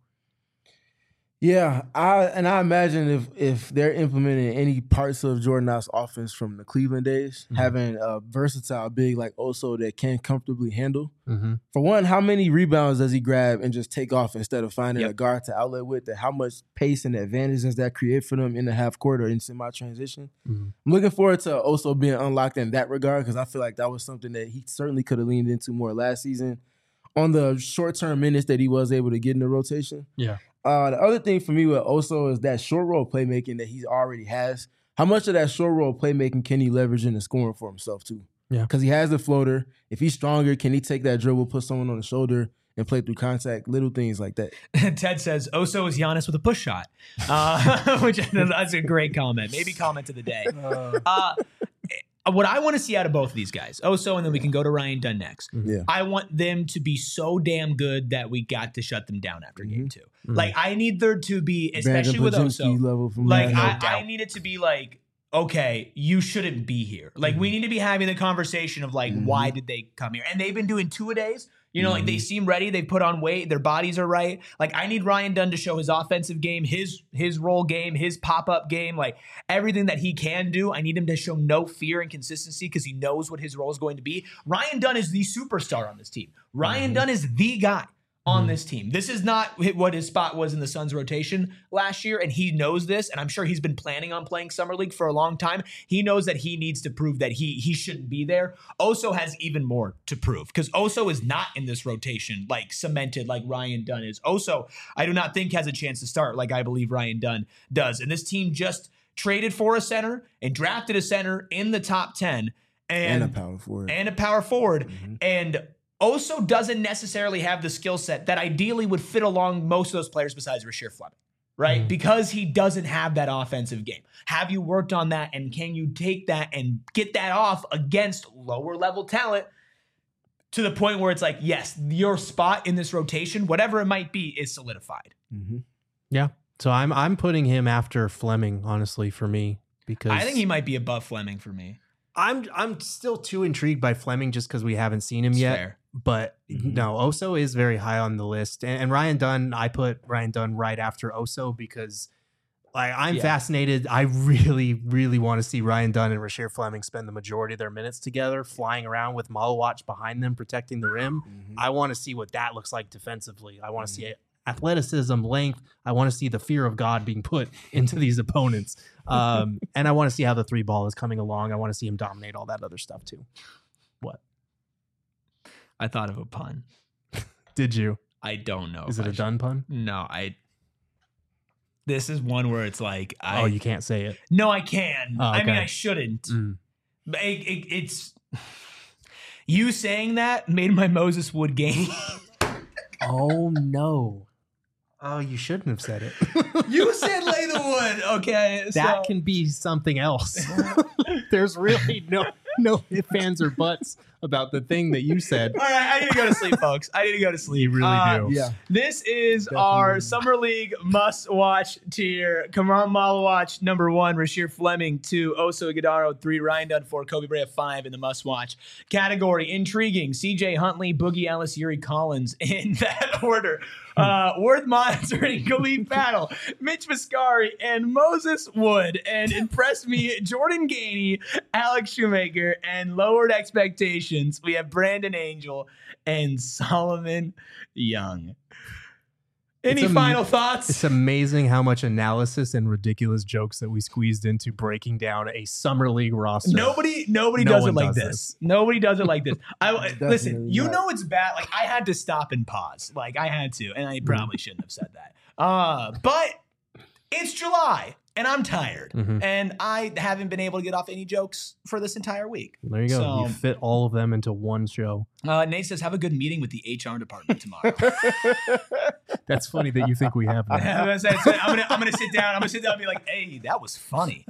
Yeah, I and I imagine if if they're implementing any parts of Jordan Knox offense from the Cleveland days, Mhm. having a versatile big like Oso that can comfortably handle. Mm-hmm. For one, how many rebounds does he grab and just take off instead of finding Yep. a guard to outlet with? And how much pace and advantage does that create for them in the half court or in semi transition? Mhm. I'm looking forward to Oso being unlocked in that regard because I feel like that was something that he certainly could have leaned into more last season on the short term minutes that he was able to get in the rotation. Yeah. Uh, the other thing for me with Oso is that short roll playmaking that he already has. How much of that short roll playmaking can he leverage into scoring for himself too? Yeah. Because he has the floater. If he's stronger, can he take that dribble, put someone on the shoulder, and play through contact? Little things like that. Ted says, Oso is Giannis with a push shot, uh, which that's a great comment. Maybe comment of the day. Uh, what I want to see out of both of these guys, Oso, and then we can go to Ryan Dunn next. Yeah. I want them to be so damn good that we got to shut them down after game two. Mhm. Like, I need there to be, especially with Brandon Oso, Podziemski level from like, last I, night. I need it to be like, okay, you shouldn't be here. Like, we need to be having the conversation of like, Mhm. why did they come here? And they've been doing two-a-days. You know, like they Mhm. seem ready. They put on weight. Their bodies are right. Like I need Ryan Dunn to show his offensive game, his his roll game, his pop up game, like everything that he can do. I need him to show no fear and consistency because he knows what his role is going to be. Ryan Dunn is the superstar on this team. Ryan Mhm. Dunn is the guy on Mhm. this team. This is not what his spot was in the Suns rotation last year, and he knows this, and I'm sure he's been planning on playing Summer League for a long time. He knows that he needs to prove that he he shouldn't be there. Oso has even more to prove because Oso is not in this rotation like cemented like Ryan Dunn is. Oso, I do not think has a chance to start like I believe Ryan Dunn does. And this team just traded for a center and drafted a center in the top ten and, and a power forward. and a power forward. Mhm. And Oso doesn't necessarily have the skill set that ideally would fit along most of those players besides Rasheer Fleming, right? Mhm. Because he doesn't have that offensive game. Have you worked on that, and can you take that and get that off against lower level talent to the point where it's like, yes, your spot in this rotation, whatever it might be, is solidified. Mhm. Yeah. So I'm I'm putting him after Fleming, honestly, for me, because I think he might be above Fleming for me. I'm I'm still too intrigued by Fleming just because we haven't seen him It's yet. fair. But Mhm. no, Oso is very high on the list, and, and Ryan Dunn. I put Ryan Dunn right after Oso because, like, I'm Yeah. fascinated. I really, really want to see Ryan Dunn and Rasheer Fleming spend the majority of their minutes together, flying around with Malawatch behind them, protecting the rim. Mhm. I want to see what that looks like defensively. I want to see it. Athleticism, length. I want to see the fear of God being put into these opponents. Um, and I want to see how the three ball is coming along. I want to see him dominate all that other stuff too. What? I thought of a pun. Did you? I don't know. Is if it I a should- done pun? No, I. This is one where it's like, I, Oh, you can't say it. no, I can. Oh, I mean, okay. I shouldn't. Mm. But it, it, it's you saying that made my Moses Wood game. Oh no. Oh, you shouldn't have said it. You said lay the wood, okay? That so- can be something else. There's really no no ifs, ands, or buts about the thing that you said. All right, I need to go to sleep, folks. I need to go to sleep. You really Uh, do. Yeah. This is Definitely. our Summer League must-watch tier. Kamran Malawatch, number one. Rasheer Fleming, two. Oso Ighodaro, three. Ryan Dunn, four. Kobe Bryant, five in the must-watch category. Intriguing. C J Huntley, Boogie Ellis, Yuri Collins in that order. Uh, worth monitoring. Khalif Battle, Mitch Viscari, and Moses Wood. And impressed me, Jordan Gainey, Alex Shoemaker, and lowered expectations. We have Brandon Angel and Solomon Young. Any It's am- final thoughts? It's amazing how much analysis and ridiculous jokes that we squeezed into breaking down a summer league roster. Nobody, nobody No does it one like does this. this. Nobody does it like this. I listen. Definitely You not. know it's bad. Like I had to stop and pause. Like I had to, and I probably shouldn't have said that. Uh, but it's July, and I'm tired, Mhm. and I haven't been able to get off any jokes for this entire week. There you go. So- You fit all of them into one show. Uh, Nate says, "Have a good meeting with the H R department tomorrow." That's funny that you think we have I'm that. gonna, say- I'm gonna, I'm gonna sit down. I'm gonna sit down and be like, "Hey, that was funny."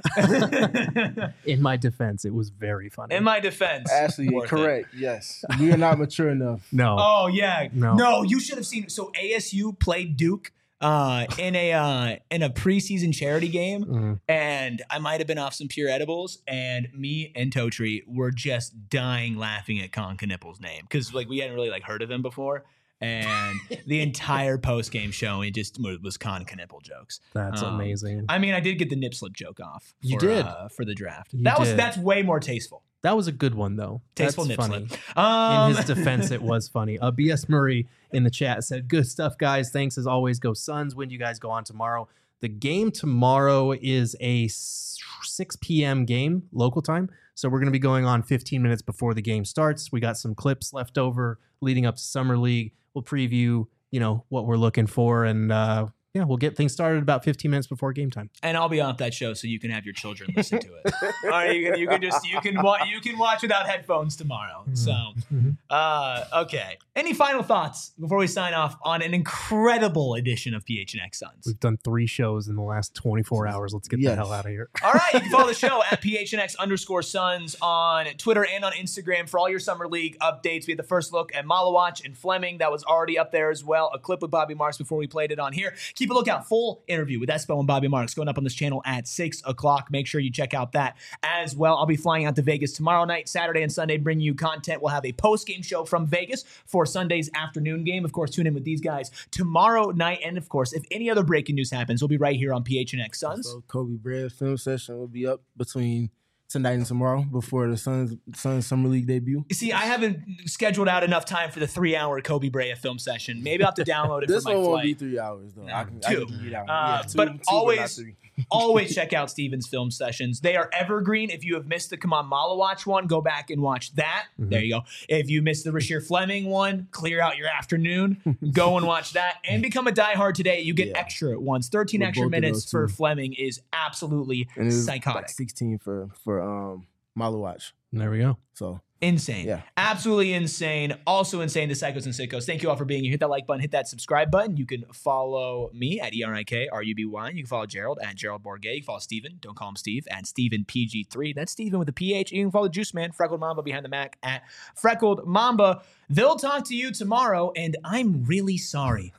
In my defense, it was very funny. In my defense, Ashley, worth it. correct. Yes. We are not mature enough. no. Oh yeah, No. no, you should have seen. So A S U played Duke uh, in a uh, in a preseason charity game, Mhm. and I might have been off some pure edibles, and me and Totri were just dying laughing at Con Knippel's name because like we hadn't really like heard of him before. And the entire post game showing just was Con Knippel jokes. That's Um, amazing. I mean, I did get the nip slip joke off. For, You did. uh, for the draft. You that was did. that's way more tasteful. That was a good one, though. Tasteful That's nip funny. slip. Um, In his defense, it was funny. Uh, B S Murray in the chat said, "Good stuff, guys. Thanks as always. Go Suns. When do you guys go on tomorrow?" The game tomorrow is a s- six p.m. game, local time. So we're going to be going on fifteen minutes before the game starts. We got some clips left over leading up to Summer League. We'll preview, you know, what we're looking for and uh, yeah, we'll get things started about fifteen minutes before game time. And I'll be off that show so you can have your children listen to it. All right, you can, you can just you can wa- you can watch without headphones tomorrow. So, uh, okay. Any final thoughts before we sign off on an incredible edition of P H N X Suns? We've done three shows in the last twenty-four hours. Let's get Yes. the hell out of here. All right, you can follow the show at P H N X underscore Suns on Twitter and on Instagram for all your summer league updates. We had the first look at Malawach and Fleming. That was already up there as well. A clip with Bobby Marks before we played it on here. Keep a lookout. Full interview with Espo and Bobby Marks going up on this channel at six o'clock. Make sure you check out that as well. I'll be flying out to Vegas tomorrow night, Saturday and Sunday, bringing you content. We'll have a post-game show from Vegas for Sunday's afternoon game. Of course, tune in with these guys tomorrow night. And of course, if any other breaking news happens, we'll be right here on P H N X Suns. So Kobe Bryant film session will be up between tonight and tomorrow before the Suns Suns Summer League debut. See, I haven't scheduled out enough time for the three-hour Kobe Bryant film session. Maybe I'll have to download it This for my one won't flight. be three hours though. I can, I Two. can get out. Uh, Yeah, two- but two, not always, three. always check out Steven's film sessions. They are evergreen. If you have missed the Come On Malawach one, go back and watch that. Mm-hmm. There you go. If you missed the Rasheer Fleming one, clear out your afternoon. Go and watch that and become a diehard today. You get Yeah. extra ones. thirteen With extra both of minutes those for two. Fleming is absolutely And it was psychotic. like sixteen for for um Malawach. There we go. So Insane. Yeah. Absolutely insane. Also insane, the Psychos and Sickos. Thank you all for being here. Hit that like button, hit that subscribe button. You can follow me at E R I K R U B Y. You can follow Gerald at Gerald Bourget. You can follow Steven, don't call him Steve, at Steven P G three. That's Steven with a P H. You can follow Juice Man, Freckled Mamba behind the Mac at Freckled Mamba. They'll talk to you tomorrow, and I'm really sorry